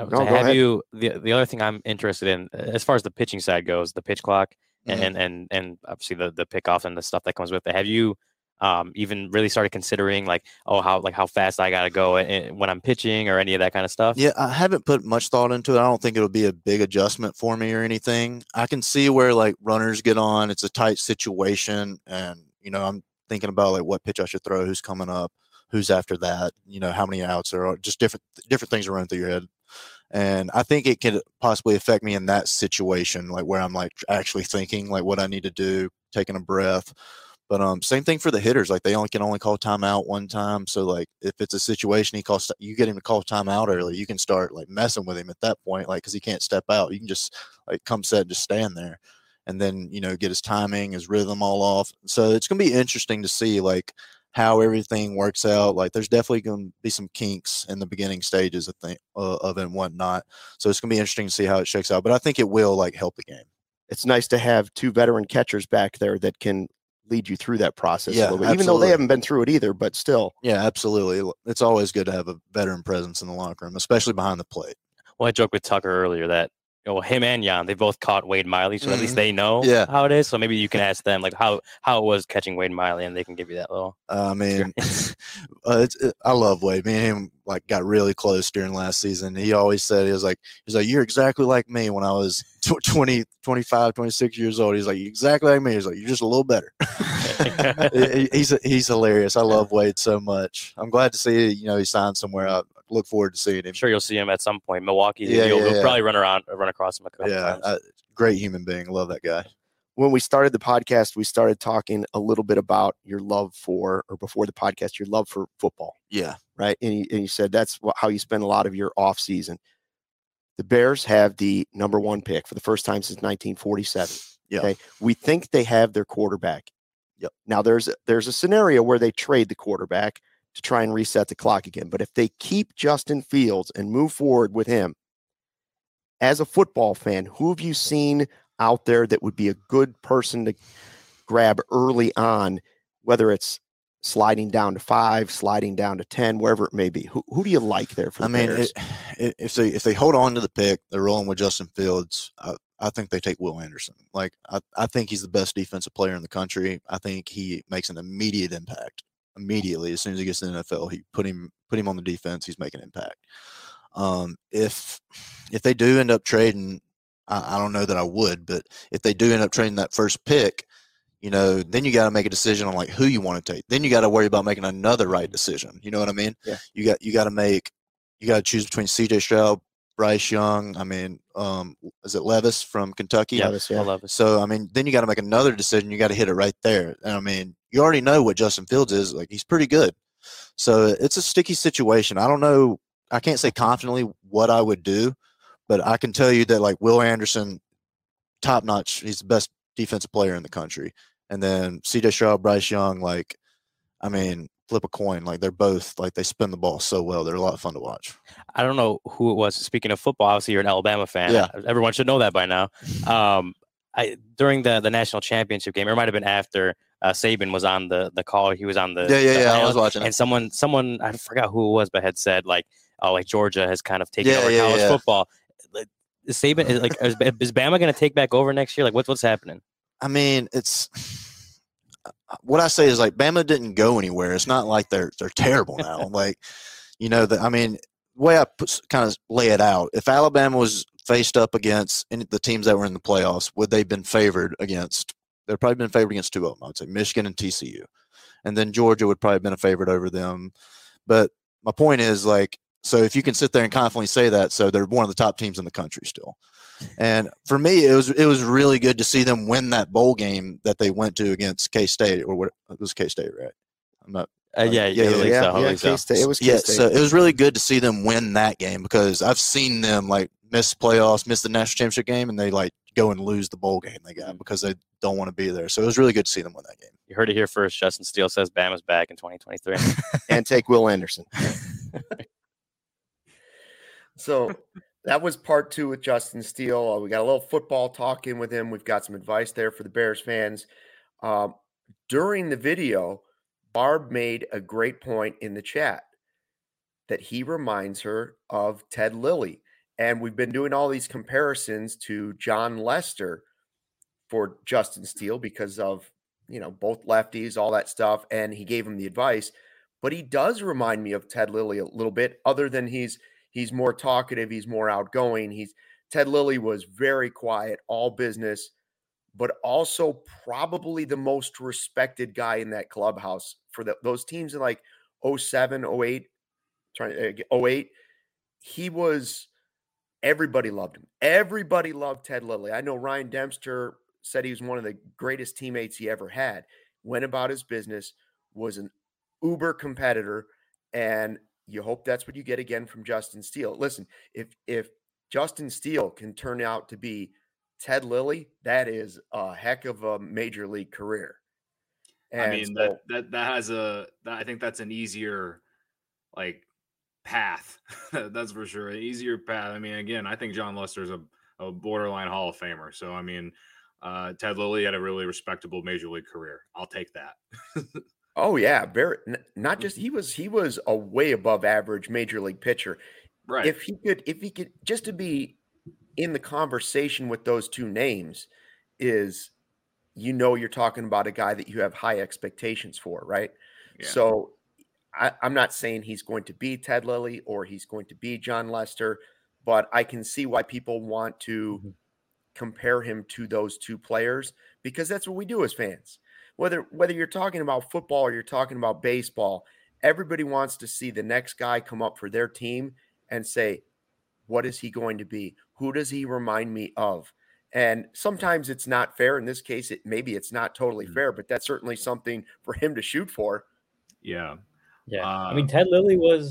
the other thing I'm interested in, as far as the pitching side goes, the pitch clock and obviously the pickoff and the stuff that comes with it. Have you even really started considering how fast I got to go when I'm pitching or any of that kind of stuff? Yeah, I haven't put much thought into it. I don't think it'll be a big adjustment for me or anything. I can see where like runners get on. It's a tight situation. And, I'm thinking about like what pitch I should throw, who's coming up, who's after that, how many outs there are, just different things run through your head. And I think it could possibly affect me in that situation, like where I'm like actually thinking like what I need to do, taking a breath. But same thing for the hitters. Like they can only call timeout one time. So like if it's a situation you get him to call timeout early, you can start like messing with him at that point, like because he can't step out. You can just like come set and just stand there, and then get his timing, his rhythm all off. So it's gonna be interesting to see like how everything works out. Like there's definitely going to be some kinks in the beginning stages of it and whatnot. So it's going to be interesting to see how it shakes out, but I think it will like help the game. It's nice to have 2 veteran catchers back there that can lead you through that process a little bit, absolutely. Even though they haven't been through it either, but still. Yeah, absolutely. It's always good to have a veteran presence in the locker room, especially behind the plate. Well, I joked with Tucker earlier that him and Jan, they both caught Wade Miley, so at least they know how it is. So maybe you can ask them like how it was catching Wade Miley, and they can give you that little. I love Wade. Me and him like got really close during last season. He always said, he's like, you're exactly like me when I was 20, 25, 26 years old. He's like, you're exactly like me. He's like, you're just a little better. He's hilarious. I love Wade so much. I'm glad to see he signed somewhere. I look forward to seeing him. I'm sure you'll see him at some point. Milwaukee, you'll probably run across him a couple times. Great human being. Love that guy. When we started the podcast, we started talking a little bit about your love for, or before the podcast, your love for football. Yeah. Right. And you said that's how you spend a lot of your off season. The Bears have the number 1 pick for the first time since 1947. Yeah. Okay. We think they have their quarterback. Yep. Now there's a scenario where they trade the quarterback to try and reset the clock again. But if they keep Justin Fields and move forward with him, as a football fan, who have you seen out there that would be a good person to grab early on, whether it's sliding down to 5, sliding down to 10, wherever it may be? Who do you like there for the Bears? If they hold on to the pick, they're rolling with Justin Fields. I think they take Will Anderson. Like I think he's the best defensive player in the country. I think he makes an immediate impact. Immediately, as soon as he gets to the NFL, he put him on the defense. He's making an impact. If they do end up trading, I don't know that I would, but if they do end up trading that first pick, then you got to make a decision on like who you want to take. Then you got to worry about making another right decision. You know what I mean? Yeah. You got to choose between C.J. Stroud, Bryce Young. I mean, is it Levis from Kentucky? Levis, yeah. Levis. So, I mean, then you got to make another decision. You got to hit it right there. And I mean, you already know what Justin Fields is. Like, he's pretty good. So it's a sticky situation. I don't know. I can't say confidently what I would do, but I can tell you that like Will Anderson, top notch. He's the best defensive player in the country. And then C.J. Stroud, Bryce Young, like, I mean, flip a coin. Like they're both like they spin the ball so well. They're a lot of fun to watch. I don't know who it was. Speaking of football, obviously you're an Alabama fan. Yeah. Everyone should know that by now. During the national championship game, or it might have been after, Saban was on the call. He was on the I was watching and it. someone I forgot who it was, but had said like, oh, like Georgia has kind of taken over college football. Like, Saban is like, is Bama going to take back over next year? Like, what's happening? I mean, it's what I say is like Bama didn't go anywhere. It's not like they're terrible now. Like, you know, I mean, the way I kind of lay it out, if Alabama was faced up against the teams that were in the playoffs, would they have been favored against? They'd probably been favored against two of them. I would say Michigan and TCU, and then Georgia would probably have been a favorite over them. But my point is, like, so if you can sit there and confidently say that, so they're one of the top teams in the country still. And for me, it was really good to see them win that bowl game that they went to against K-State, or what it was K-State, right? I'm not. K-State. It was K-State. So it was really good to see them win that game because I've seen them like miss playoffs, miss the national championship game, and they like go and lose the bowl game they got because they don't want to be there. So it was really good to see them win that game. You heard it here first. Justin Steele says Bama's back in 2023. And take Will Anderson. So that was part 2 with Justin Steele. We got a little football talk in with him. We've got some advice there for the Bears fans. During the video, Barb made a great point in the chat that he reminds her of Ted Lilly. And we've been doing all these comparisons to John Lester for Justin Steele because of, you know, both lefties, all that stuff. And he gave him the advice. But he does remind me of Ted Lilly a little bit, other than he's more talkative, he's more outgoing. Ted Lilly was very quiet, all business, but also probably the most respected guy in that clubhouse for those teams in like 07, 08, 08. Everybody loved him. Everybody loved Ted Lilly. I know Ryan Dempster said he was one of the greatest teammates he ever had, went about his business, was an uber competitor, and you hope that's what you get again from Justin Steele. Listen, if Justin Steele can turn out to be Ted Lilly, that is a heck of a major league career. And I mean, I think that's an easier like path. That's for sure. An easier path. I mean, again, I think John Lester is a borderline Hall of Famer. So, I mean, Ted Lilly had a really respectable major league career. I'll take that. Oh yeah. Not just, he was a way above average major league pitcher. Right. If he could just to be in the conversation with those two names is, you know, you're talking about a guy that you have high expectations for, right? Yeah. So I'm not saying he's going to be Ted Lilly or he's going to be John Lester, but I can see why people want to compare him to those two players, because that's what we do as fans. Whether you're talking about football or you're talking about baseball, everybody wants to see the next guy come up for their team and say, what is he going to be? Who does he remind me of? And sometimes it's not fair. In this case, maybe it's not totally fair, but that's certainly something for him to shoot for. Yeah. Yeah. I mean, Ted Lilly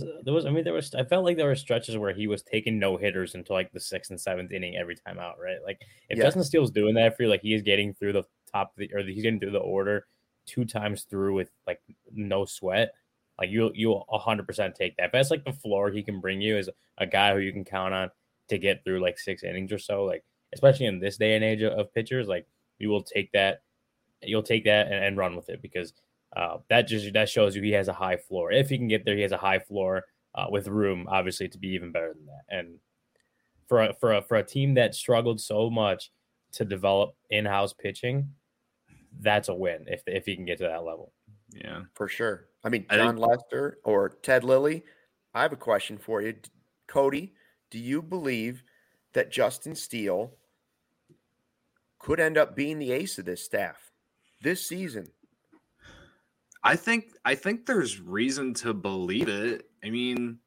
I felt like there were stretches where he was taking no hitters until like the 6th and 7th inning every time out, right? Like if Justin Steele's doing that for you, like he is getting through the top of he's getting through the order 2 times through with like no sweat. Like you'll 100% take that. If that's like the floor he can bring you as a guy who you can count on to get through like 6 innings or so, like especially in this day and age of pitchers, like you will take that. You'll take that and run with it, because that shows you he has a high floor. If he can get there, he has a high floor with room, obviously, to be even better than that. And for a team that struggled so much to develop in-house pitching, that's a win if he can get to that level. Yeah, for sure. I mean, John Lester or Ted Lilly, I have a question for you. Cody, do you believe that Justin Steele could end up being the ace of this staff this season? I think there's reason to believe it. I mean,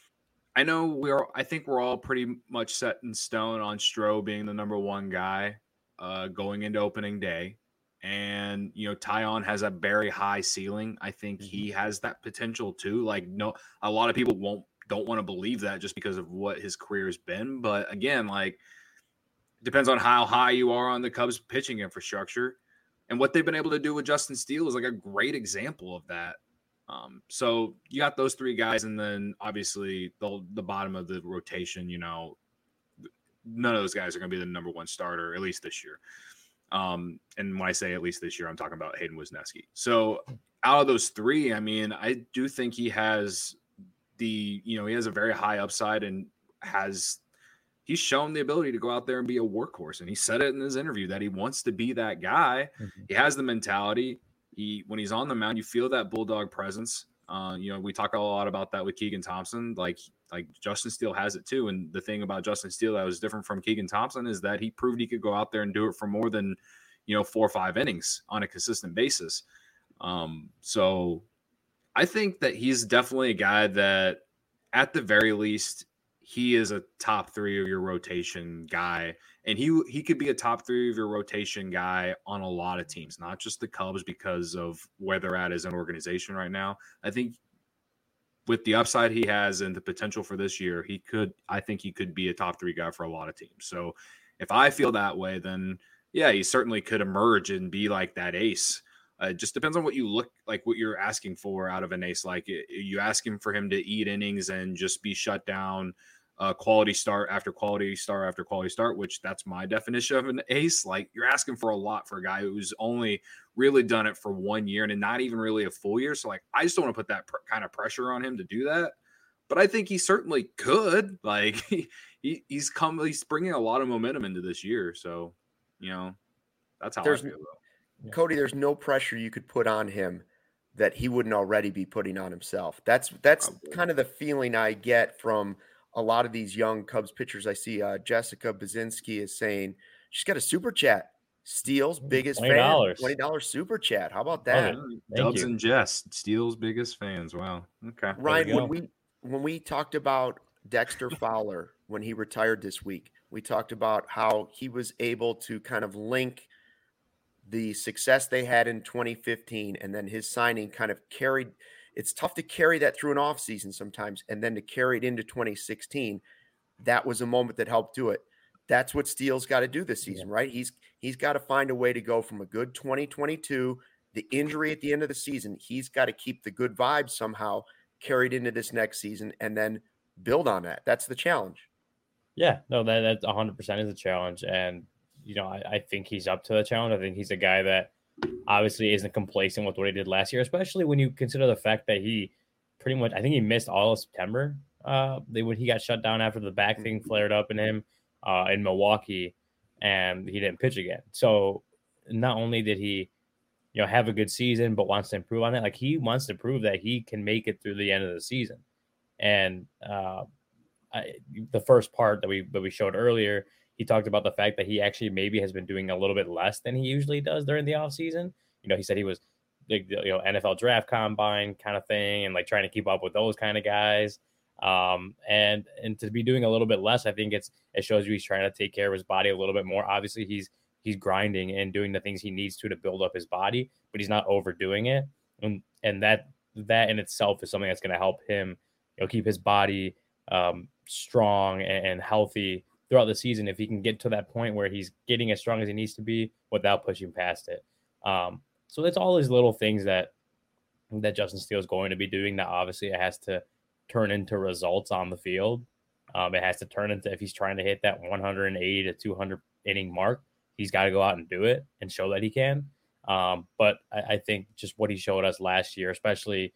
I think we're all pretty much set in stone on Stroh being the number one guy going into opening day. And, you know, Tyon has a very high ceiling. I think he has that potential too. Like, a lot of people don't want to believe that just because of what his career has been. But again, like, it depends on how high you are on the Cubs pitching infrastructure. And what they've been able to do with Justin Steele is like a great example of that. So you got those 3 guys, and then obviously the bottom of the rotation, you know, none of those guys are going to be the number one starter, at least this year. And when I say at least this year, I'm talking about Hayden Wisniewski. So out of those three, I mean, I do think he has he has a very high upside and he's shown the ability to go out there and be a workhorse. And he said it in his interview that he wants to be that guy. Mm-hmm. He has the mentality. When he's on the mound, you feel that bulldog presence. We talk a lot about that with Keegan Thompson. Like Justin Steele has it too. And the thing about Justin Steele that was different from Keegan Thompson is that he proved he could go out there and do it for more than 4 or 5 innings on a consistent basis. So I think that he's definitely a guy that at the very least, he is a top 3 of your rotation guy. And he could be a top 3 of your rotation guy on a lot of teams, not just the Cubs because of where they're at as an organization right now. I think with the upside he has and the potential for this year, I think he could be a top 3 guy for a lot of teams. So if I feel that way, then yeah, he certainly could emerge and be like that ace. It just depends on what you're asking for out of an ace. Like, you asking for him to eat innings and just be shut down, quality start after quality start after quality start, which that's my definition of an ace. Like, you're asking for a lot for a guy who's only really done it for 1 year and not even really a full year. So, like, I just don't want to put that kind of pressure on him to do that. But I think he certainly could. Like, he's bringing a lot of momentum into this year. So, that's how I feel though. Cody, there's no pressure you could put on him that he wouldn't already be putting on himself. That's kind of the feeling I get from a lot of these young Cubs pitchers. I see Jessica Bazinski is saying she's got a super chat. Steele's biggest fan, $20 super chat. How about that? Dubs and Jess, Steele's biggest fans. Wow. Okay. Ryan, when we talked about Dexter Fowler when he retired this week, we talked about how he was able to kind of link the success they had in 2015 and then his signing kind of carried. It's tough to carry that through an off season sometimes and then to carry it into 2016. That was a moment that helped do it. That's what Steele's got to do this season, right? He's got to find a way to go from a good 2022, the injury at the end of the season. He's got to keep the good vibes somehow carried into this next season and then build on that. That's the challenge. Yeah, no, that 100% is a challenge. And I think he's up to the challenge. I think he's a guy that obviously isn't complacent with what he did last year, especially when you consider the fact that he pretty much, I think he missed all of September when he got shut down after the back thing flared up in him in Milwaukee, and he didn't pitch again. So not only did he, have a good season, but wants to improve on it. Like, he wants to prove that he can make it through the end of the season. And the first part that we showed earlier, he talked about the fact that he actually maybe has been doing a little bit less than he usually does during the offseason. He said he was NFL draft combine kind of thing and like trying to keep up with those kind of guys. And to be doing a little bit less, I think it shows you he's trying to take care of his body a little bit more. Obviously, he's grinding and doing the things he needs to build up his body, but he's not overdoing it. And that in itself is something that's going to help him, keep his body strong and healthy throughout the season, if he can get to that point where he's getting as strong as he needs to be without pushing past it. So it's all these little things that Justin Steele is going to be doing that obviously it has to turn into results on the field. It has to turn into, if he's trying to hit that 180 to 200 inning mark, he's got to go out and do it and show that he can. But I think just what he showed us last year, especially,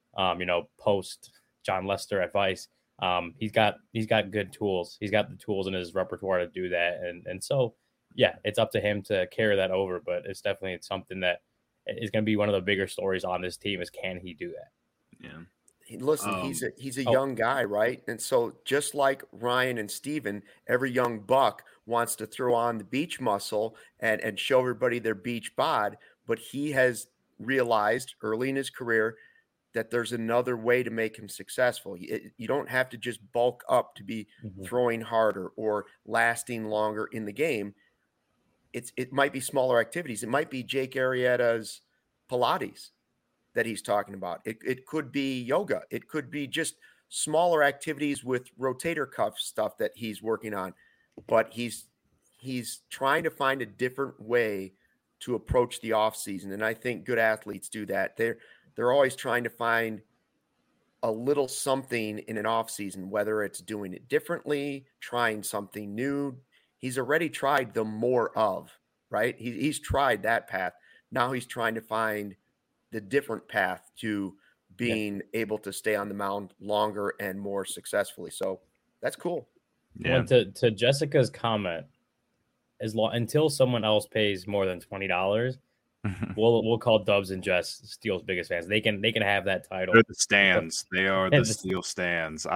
post John Lester advice, he's got good tools. He's got the tools in his repertoire to do that. And so, yeah, it's up to him to carry that over, but it's definitely something that is going to be one of the bigger stories on this team is, can he do that? Yeah. Listen, he's a young guy, right? And so just like Ryan and Steven, every young buck wants to throw on the beach muscle and show everybody their beach bod, but he has realized early in his career that there's another way to make him successful. You don't have to just bulk up to be throwing harder or lasting longer in the game. It might be smaller activities. It might be Jake Arrieta's Pilates that he's talking about. It could be yoga. It could be just smaller activities with rotator cuff stuff that he's working on. But he's trying to find a different way to approach the off season. And I think good athletes do that. They're always trying to find a little something in an off season, whether it's doing it differently, trying something new. He's already tried the more of. right? He's tried that path. Now he's trying to find the different path to being able to stay on the mound longer and more successfully. So that's cool. Yeah. To Jessica's comment, until someone else pays more than $20, we'll call Dubs and Jess Steele's biggest fans. They can have that title. They're the stands. They are the Steel stands.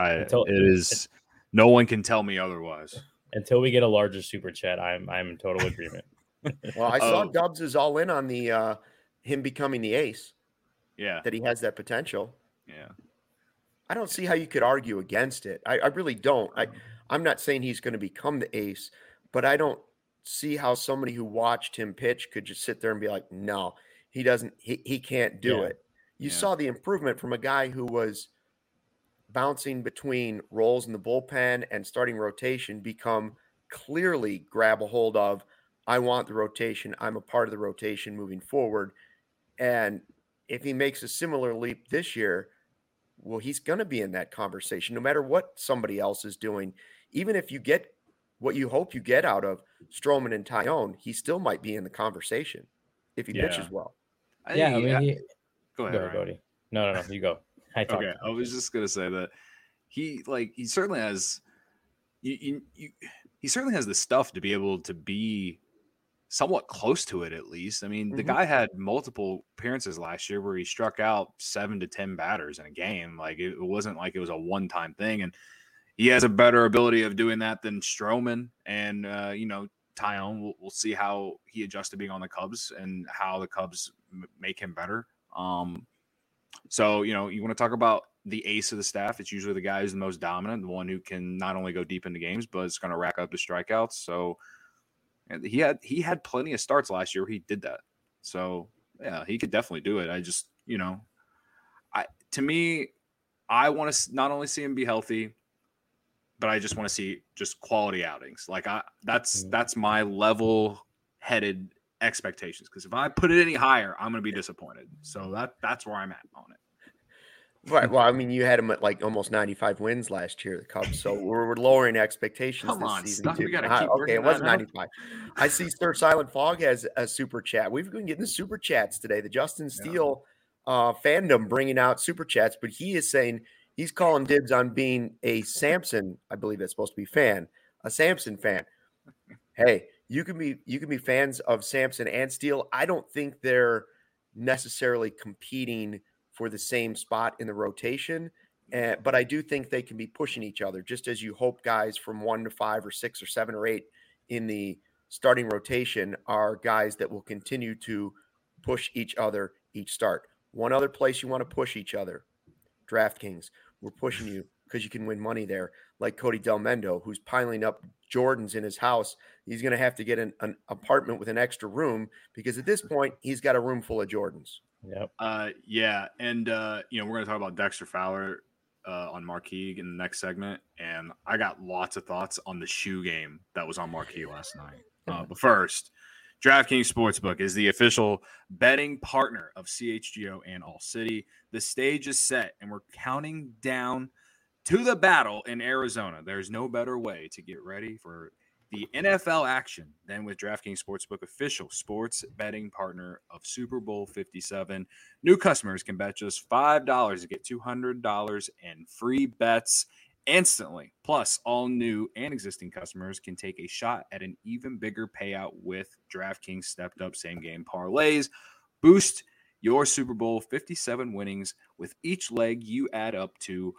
No one can tell me otherwise. Until we get a larger super chat, I'm in total agreement. Well, I saw Dubs is all in on the him becoming the ace. Yeah. That he has that potential. Yeah. I don't see how you could argue against it. I really don't. I'm not saying he's going to become the ace, but I don't see how somebody who watched him pitch could just sit there and be like, no, he doesn't, he can't do it. You saw the improvement from a guy who was bouncing between roles in the bullpen and starting rotation become clearly grab a hold of, I want the rotation. I'm a part of the rotation moving forward. And if he makes a similar leap this year, well, he's going to be in that conversation no matter what somebody else is doing. Even if you get what you hope you get out of Stroman and Taillon, he still might be in the conversation if he pitches well. Go ahead, Brody. No, you go. Okay, I was just going to say that he certainly has he certainly has the stuff to be able to be somewhat close to it, at least. I mean, the guy had multiple appearances last year where he struck out 7 to 10 batters in a game. Like, it wasn't like it was a one-time thing. And he has a better ability of doing that than Stroman. And, Taillon, we'll see how he adjusts to being on the Cubs and how the Cubs make him better. So, you want to talk about the ace of the staff. It's usually the guy who's the most dominant, the one who can not only go deep into games, but it's going to rack up the strikeouts. So, and he had plenty of starts last year where he did that. So, yeah, he could definitely do it. I just, I want to not only see him be healthy, but I just want to see just quality outings. Like that's my level-headed expectations. Because if I put it any higher, I'm going to be disappointed. So that's where I'm at on it. Right. Well, I mean, you had him at like almost 95 wins last year, the Cubs. So we're lowering expectations this season too. Okay, it wasn't 95. I see Sir Silent Fog has a super chat. We've been getting the super chats today. The Justin Steele fandom bringing out super chats, but he is saying he's calling dibs on being a Samson, I believe that's supposed to be a Samson fan. Hey, you can be fans of Samson and Steele. I don't think they're necessarily competing for the same spot in the rotation. But I do think they can be pushing each other, just as you hope guys from 1 to 5 or 6 or 7 or 8 in the starting rotation are guys that will continue to push each other each start. One other place you want to push each other, DraftKings. We're pushing you because you can win money there, like Cody Delmendo, who's piling up Jordans in his house. He's going to have to get an apartment with an extra room because at this point, he's got a room full of Jordans. Yep. Yeah. And, we're going to talk about Dexter Fowler on Marquee in the next segment. And I got lots of thoughts on the shoe game that was on Marquee last night. But first, DraftKings Sportsbook is the official betting partner of CHGO and All City. The stage is set, and we're counting down to the battle in Arizona. There's no better way to get ready for the NFL action than with DraftKings Sportsbook, official sports betting partner of Super Bowl 57. New customers can bet just $5 to get $200 in free bets instantly. Plus, all new and existing customers can take a shot at an even bigger payout with DraftKings stepped up same game parlays. Boost your Super Bowl 57 winnings with each leg you add up to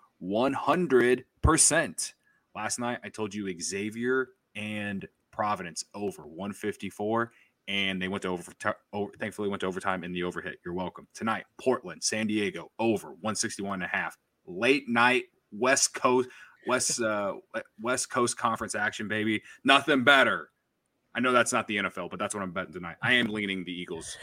100%. Last night, I told you Xavier and Providence over 154, and they went to thankfully went to overtime in the overhit. You're welcome. Tonight, Portland, San Diego over 161.5. Late night West Coast Conference action, baby. Nothing better. I know that's not the NFL, but that's what I'm betting tonight. I am leaning the Eagles.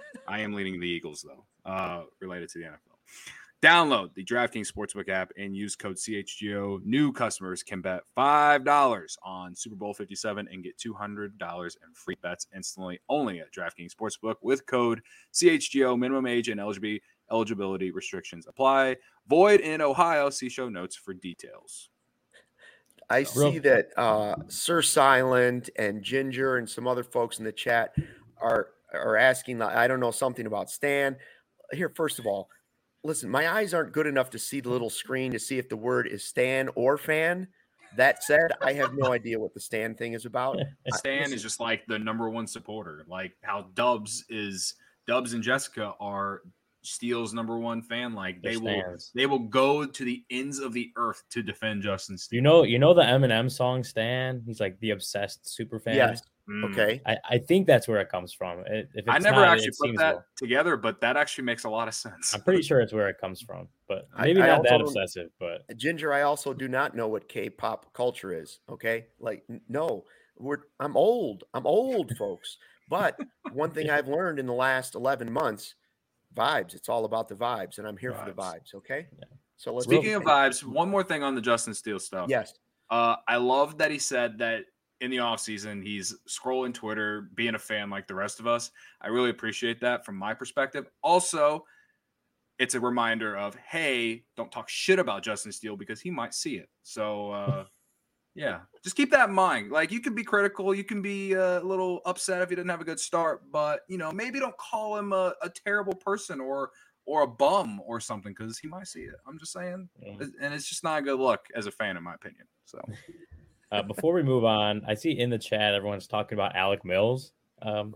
Though, related to the NFL. Download the DraftKings Sportsbook app and use code CHGO. New customers can bet $5 on Super Bowl 57 and get $200 in free bets instantly only at DraftKings Sportsbook with code CHGO. Minimum age and eligibility restrictions apply. Void in Ohio. See show notes for details. I see that Sir Silent and Ginger and some other folks in the chat are asking, I don't know, something about Stan. Here, first of all, listen, my eyes aren't good enough to see the little screen to see if the word is Stan or fan. That said, I have no idea what the Stan thing is about. Stan is just like the number one supporter, like how Dubs and Jessica are Steele's number one fan. Like they will go to the ends of the earth to defend Justin Steele. You know the Eminem song Stan? He's like the obsessed super fan. Yes. Okay. I think that's where it comes from. I never actually put that together, but that actually makes a lot of sense. I'm pretty sure it's where it comes from, but maybe not that obsessive. But Ginger, I also do not know what K-pop culture is. Okay, like no, I'm old, folks. But one thing I've learned in the last 11 months, vibes. It's all about the vibes, and I'm here for the vibes. Okay. Yeah. So speaking of vibes, one more thing on the Justin Steele stuff. Yes. I love that he said that in the offseason, he's scrolling Twitter, being a fan like the rest of us. I really appreciate that from my perspective. Also, it's a reminder of, hey, don't talk shit about Justin Steele because he might see it. So, yeah, just keep that in mind. Like, you can be critical. You can be a little upset if he didn't have a good start. But, maybe don't call him a terrible person or a bum or something because he might see it. I'm just saying. Yeah. And it's just not a good look as a fan, in my opinion. So. Before we move on, I see in the chat everyone's talking about Alec Mills out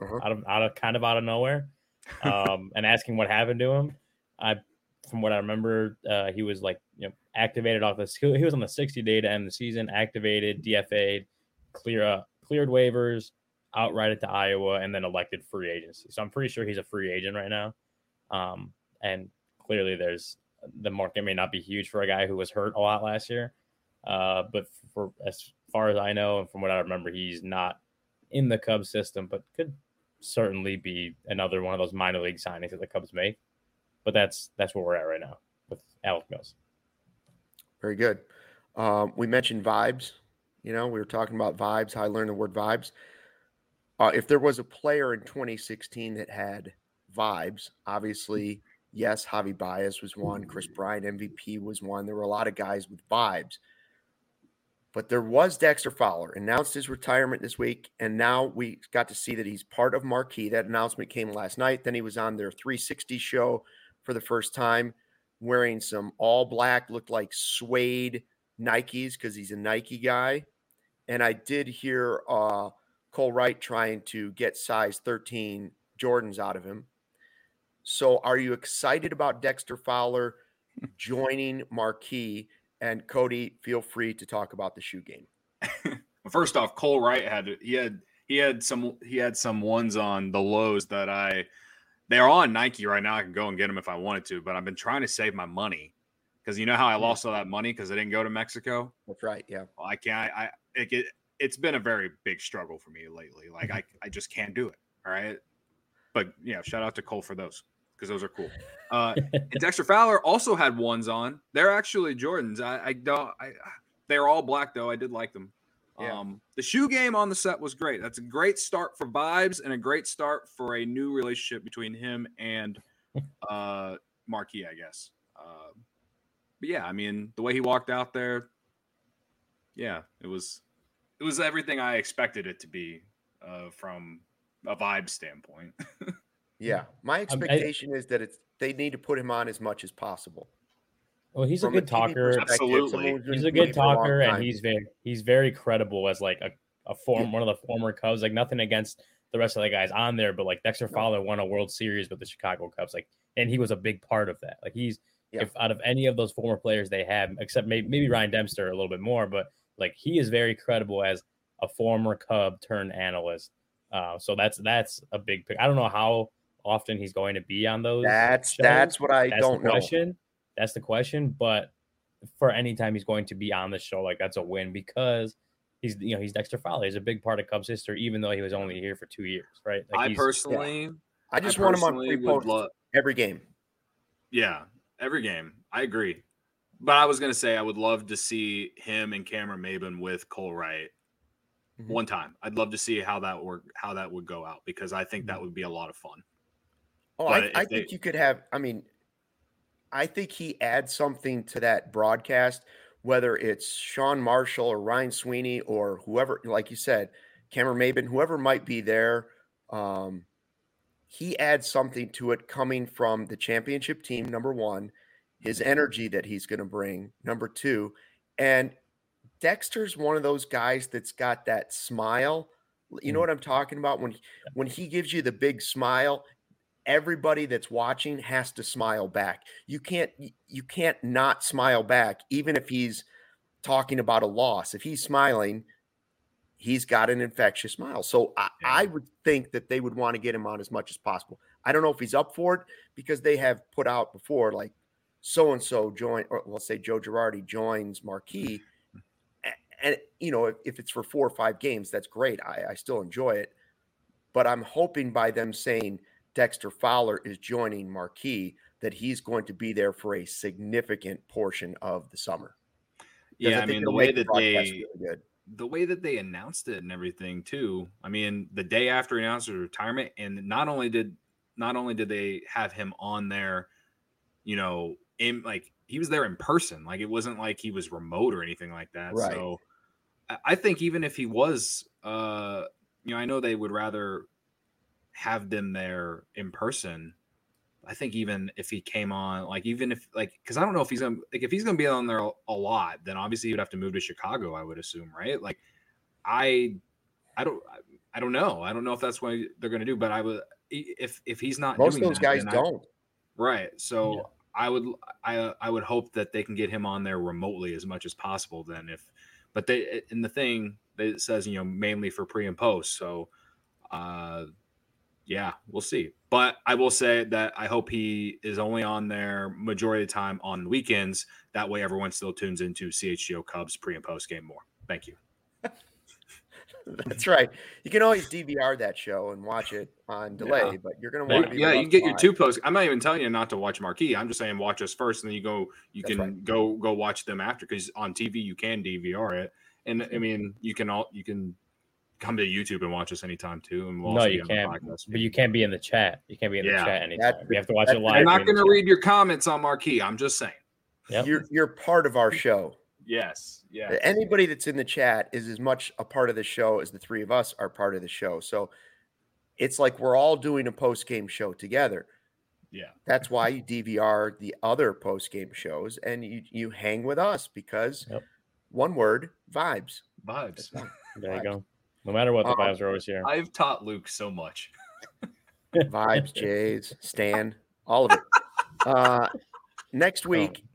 of nowhere, and asking what happened to him. From what I remember, he was activated off this. He was on the 60-day to end the season, activated, DFA'd, cleared waivers, outrighted to Iowa, and then elected free agency. So I'm pretty sure he's a free agent right now. And clearly, the market may not be huge for a guy who was hurt a lot last year. But for as far as I know, and from what I remember, he's not in the Cubs system, but could certainly be another one of those minor league signings that the Cubs make. But that's where we're at right now with Alec Mills. Very good. We mentioned vibes. We were talking about vibes, how I learned the word vibes. If there was a player in 2016 that had vibes, obviously, yes, Javi Baez was one. Chris Bryant, MVP, was one. There were a lot of guys with vibes. But there was Dexter Fowler, announced his retirement this week, and now we got to see that he's part of Marquee. That announcement came last night. Then he was on their 360 show for the first time, wearing some all black, looked like suede Nikes because he's a Nike guy. And I did hear Cole Wright trying to get size 13 Jordans out of him. So are you excited about Dexter Fowler joining Marquee? And Cody, feel free to talk about the shoe game. First off, Cole Wright had some ones on the lows that they're on Nike right now. I can go and get them if I wanted to, but I've been trying to save my money because you know how I lost all that money because I didn't go to Mexico. That's right. Yeah. Well, I can't. It's been a very big struggle for me lately. Like I just can't do it. All right. But yeah, shout out to Cole for those because those are cool. And Dexter Fowler also had ones on. They're actually Jordans. They're all black though. I did like them. Yeah. The shoe game on the set was great. That's a great start for vibes and a great start for a new relationship between him and Marquee, I guess. But yeah, I mean, the way he walked out there, yeah, it was everything I expected it to be from a vibe standpoint. Yeah, my expectation is that they need to put him on as much as possible. Well, he's a good talker. Absolutely, he's a good talker, and he's very credible as like one of the former Cubs. Like nothing against the rest of the guys on there, but like Dexter Fowler won a World Series with the Chicago Cubs, and he was a big part of that. Like if out of any of those former players they have, except maybe Ryan Dempster a little bit more, but like he is very credible as a former Cub turned analyst. So that's a big pick. I don't know how often he's going to be on those. That's what I don't know. That's the question. But for any time he's going to be on the show, like that's a win because he's Dexter Fowler. He's a big part of Cubs history, even though he was only here for 2 years, right? Like I just want him on pre-post every game. Yeah, every game. I agree. But I was going to say I would love to see him and Cameron Maybin with Cole Wright one time. I'd love to see how that would go out because I think that would be a lot of fun. Oh, I think you could have – I mean, I think he adds something to that broadcast whether it's Sean Marshall or Ryan Sweeney or whoever, like you said, Cameron Maben, whoever might be there, he adds something to it coming from the championship team, number one, his energy that he's going to bring, number two. And Dexter's one of those guys that's got that smile. You know what I'm talking about? When he gives you the big smile, everybody that's watching has to smile back. You can't not smile back, even if he's talking about a loss. If he's smiling, he's got an infectious smile. So I would think that they would want to get him on as much as possible. I don't know if he's up for it because they have put out before, like so-and-so join, or let's say Joe Girardi joins Marquee. And, you know, if it's for 4 or 5 games, that's great. I still enjoy it. But I'm hoping by them saying Dexter Fowler is joining Marquee that he's going to be there for a significant portion of the summer. Yeah, I mean, the way that they announced it and everything too. I mean, the day after he announced his retirement, and not only did they have him on there, you know, he was there in person. Like, it wasn't like he was remote or anything like that. Right. So I think even if he was, you know, I know they would rather have them there in person. I think even if he came on, like, even if, like, because I don't know if he's gonna, like, if he's gonna be on there a lot, then obviously he would have to move to Chicago, I would assume, right? Like, I don't know. I don't know if that's what they're gonna do, but I would, if he's not, most of those guys don't. Right. So yeah. I would hope that they can get him on there remotely as much as possible. Then but in the thing that says, you know, mainly for pre and post. So, yeah, we'll see. But I will say that I hope he is only on there majority of the time on the weekends. That way everyone still tunes into CHGO Cubs pre and post game more. Thank you. That's right. You can always DVR that show and watch it on delay, but you're going to want to be. Yeah, you can get your 2 posts. I'm not even telling you not to watch Marquee. I'm just saying watch us first, and then you can go watch them after, because on TV you can DVR it. And I mean, you can come to YouTube and watch us anytime too. And we'll you can't. But you can't be in the chat. You can't be in the chat anytime. You have to watch it live. I'm not going to read your comments on Marquee. I'm just saying. Yep. You're part of our show. Yes. Yeah. Anybody that's in the chat is as much a part of the show as the three of us are part of the show. So it's like we're all doing a post-game show together. Yeah. That's why you DVR the other post-game shows and you hang with us, because one word, vibes. Vibes. There you go. No matter what, the vibes are always here. I've taught Luke so much. Vibes, Jays, Stan, all of it. Next week,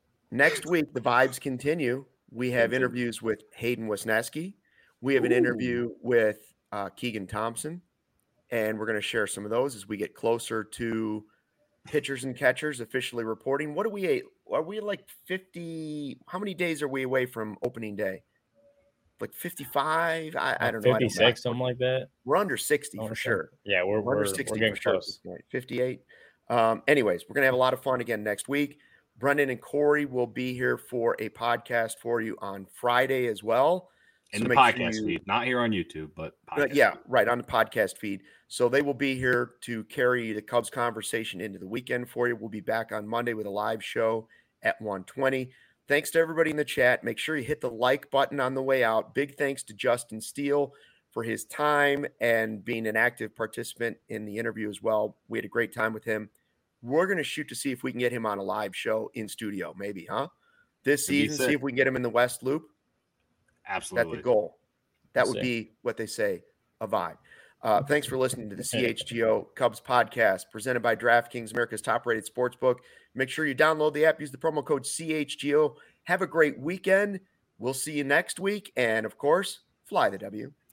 the vibes continue. We have interviews with Hayden Wesneski. We have an interview with Keegan Thompson, and we're going to share some of those as we get closer to pitchers and catchers officially reporting. What are we like 50? How many days are we away from opening day? Like 55? I don't know. 56, something like that. We're under 60 for sure. Yeah, we're under 60 for sure. 58. Anyways, we're going to have a lot of fun again next week. Brendan and Corey will be here for a podcast for you on Friday as well. In the podcast feed, not here on YouTube, but yeah, right, on the podcast feed. So they will be here to carry the Cubs conversation into the weekend for you. We'll be back on Monday with a live show at 1:20. Thanks to everybody in the chat. Make sure you hit the like button on the way out. Big thanks to Justin Steele for his time and being an active participant in the interview as well. We had a great time with him. We're going to shoot to see if we can get him on a live show in studio, maybe, huh? This season, see if we can get him in the West Loop. Absolutely. That's the goal. That would be what they say, a vibe. Thanks for listening to the CHGO Cubs podcast presented by DraftKings, America's top-rated sportsbook. Make sure you download the app. Use the promo code CHGO. Have a great weekend. We'll see you next week. And, of course, fly the W.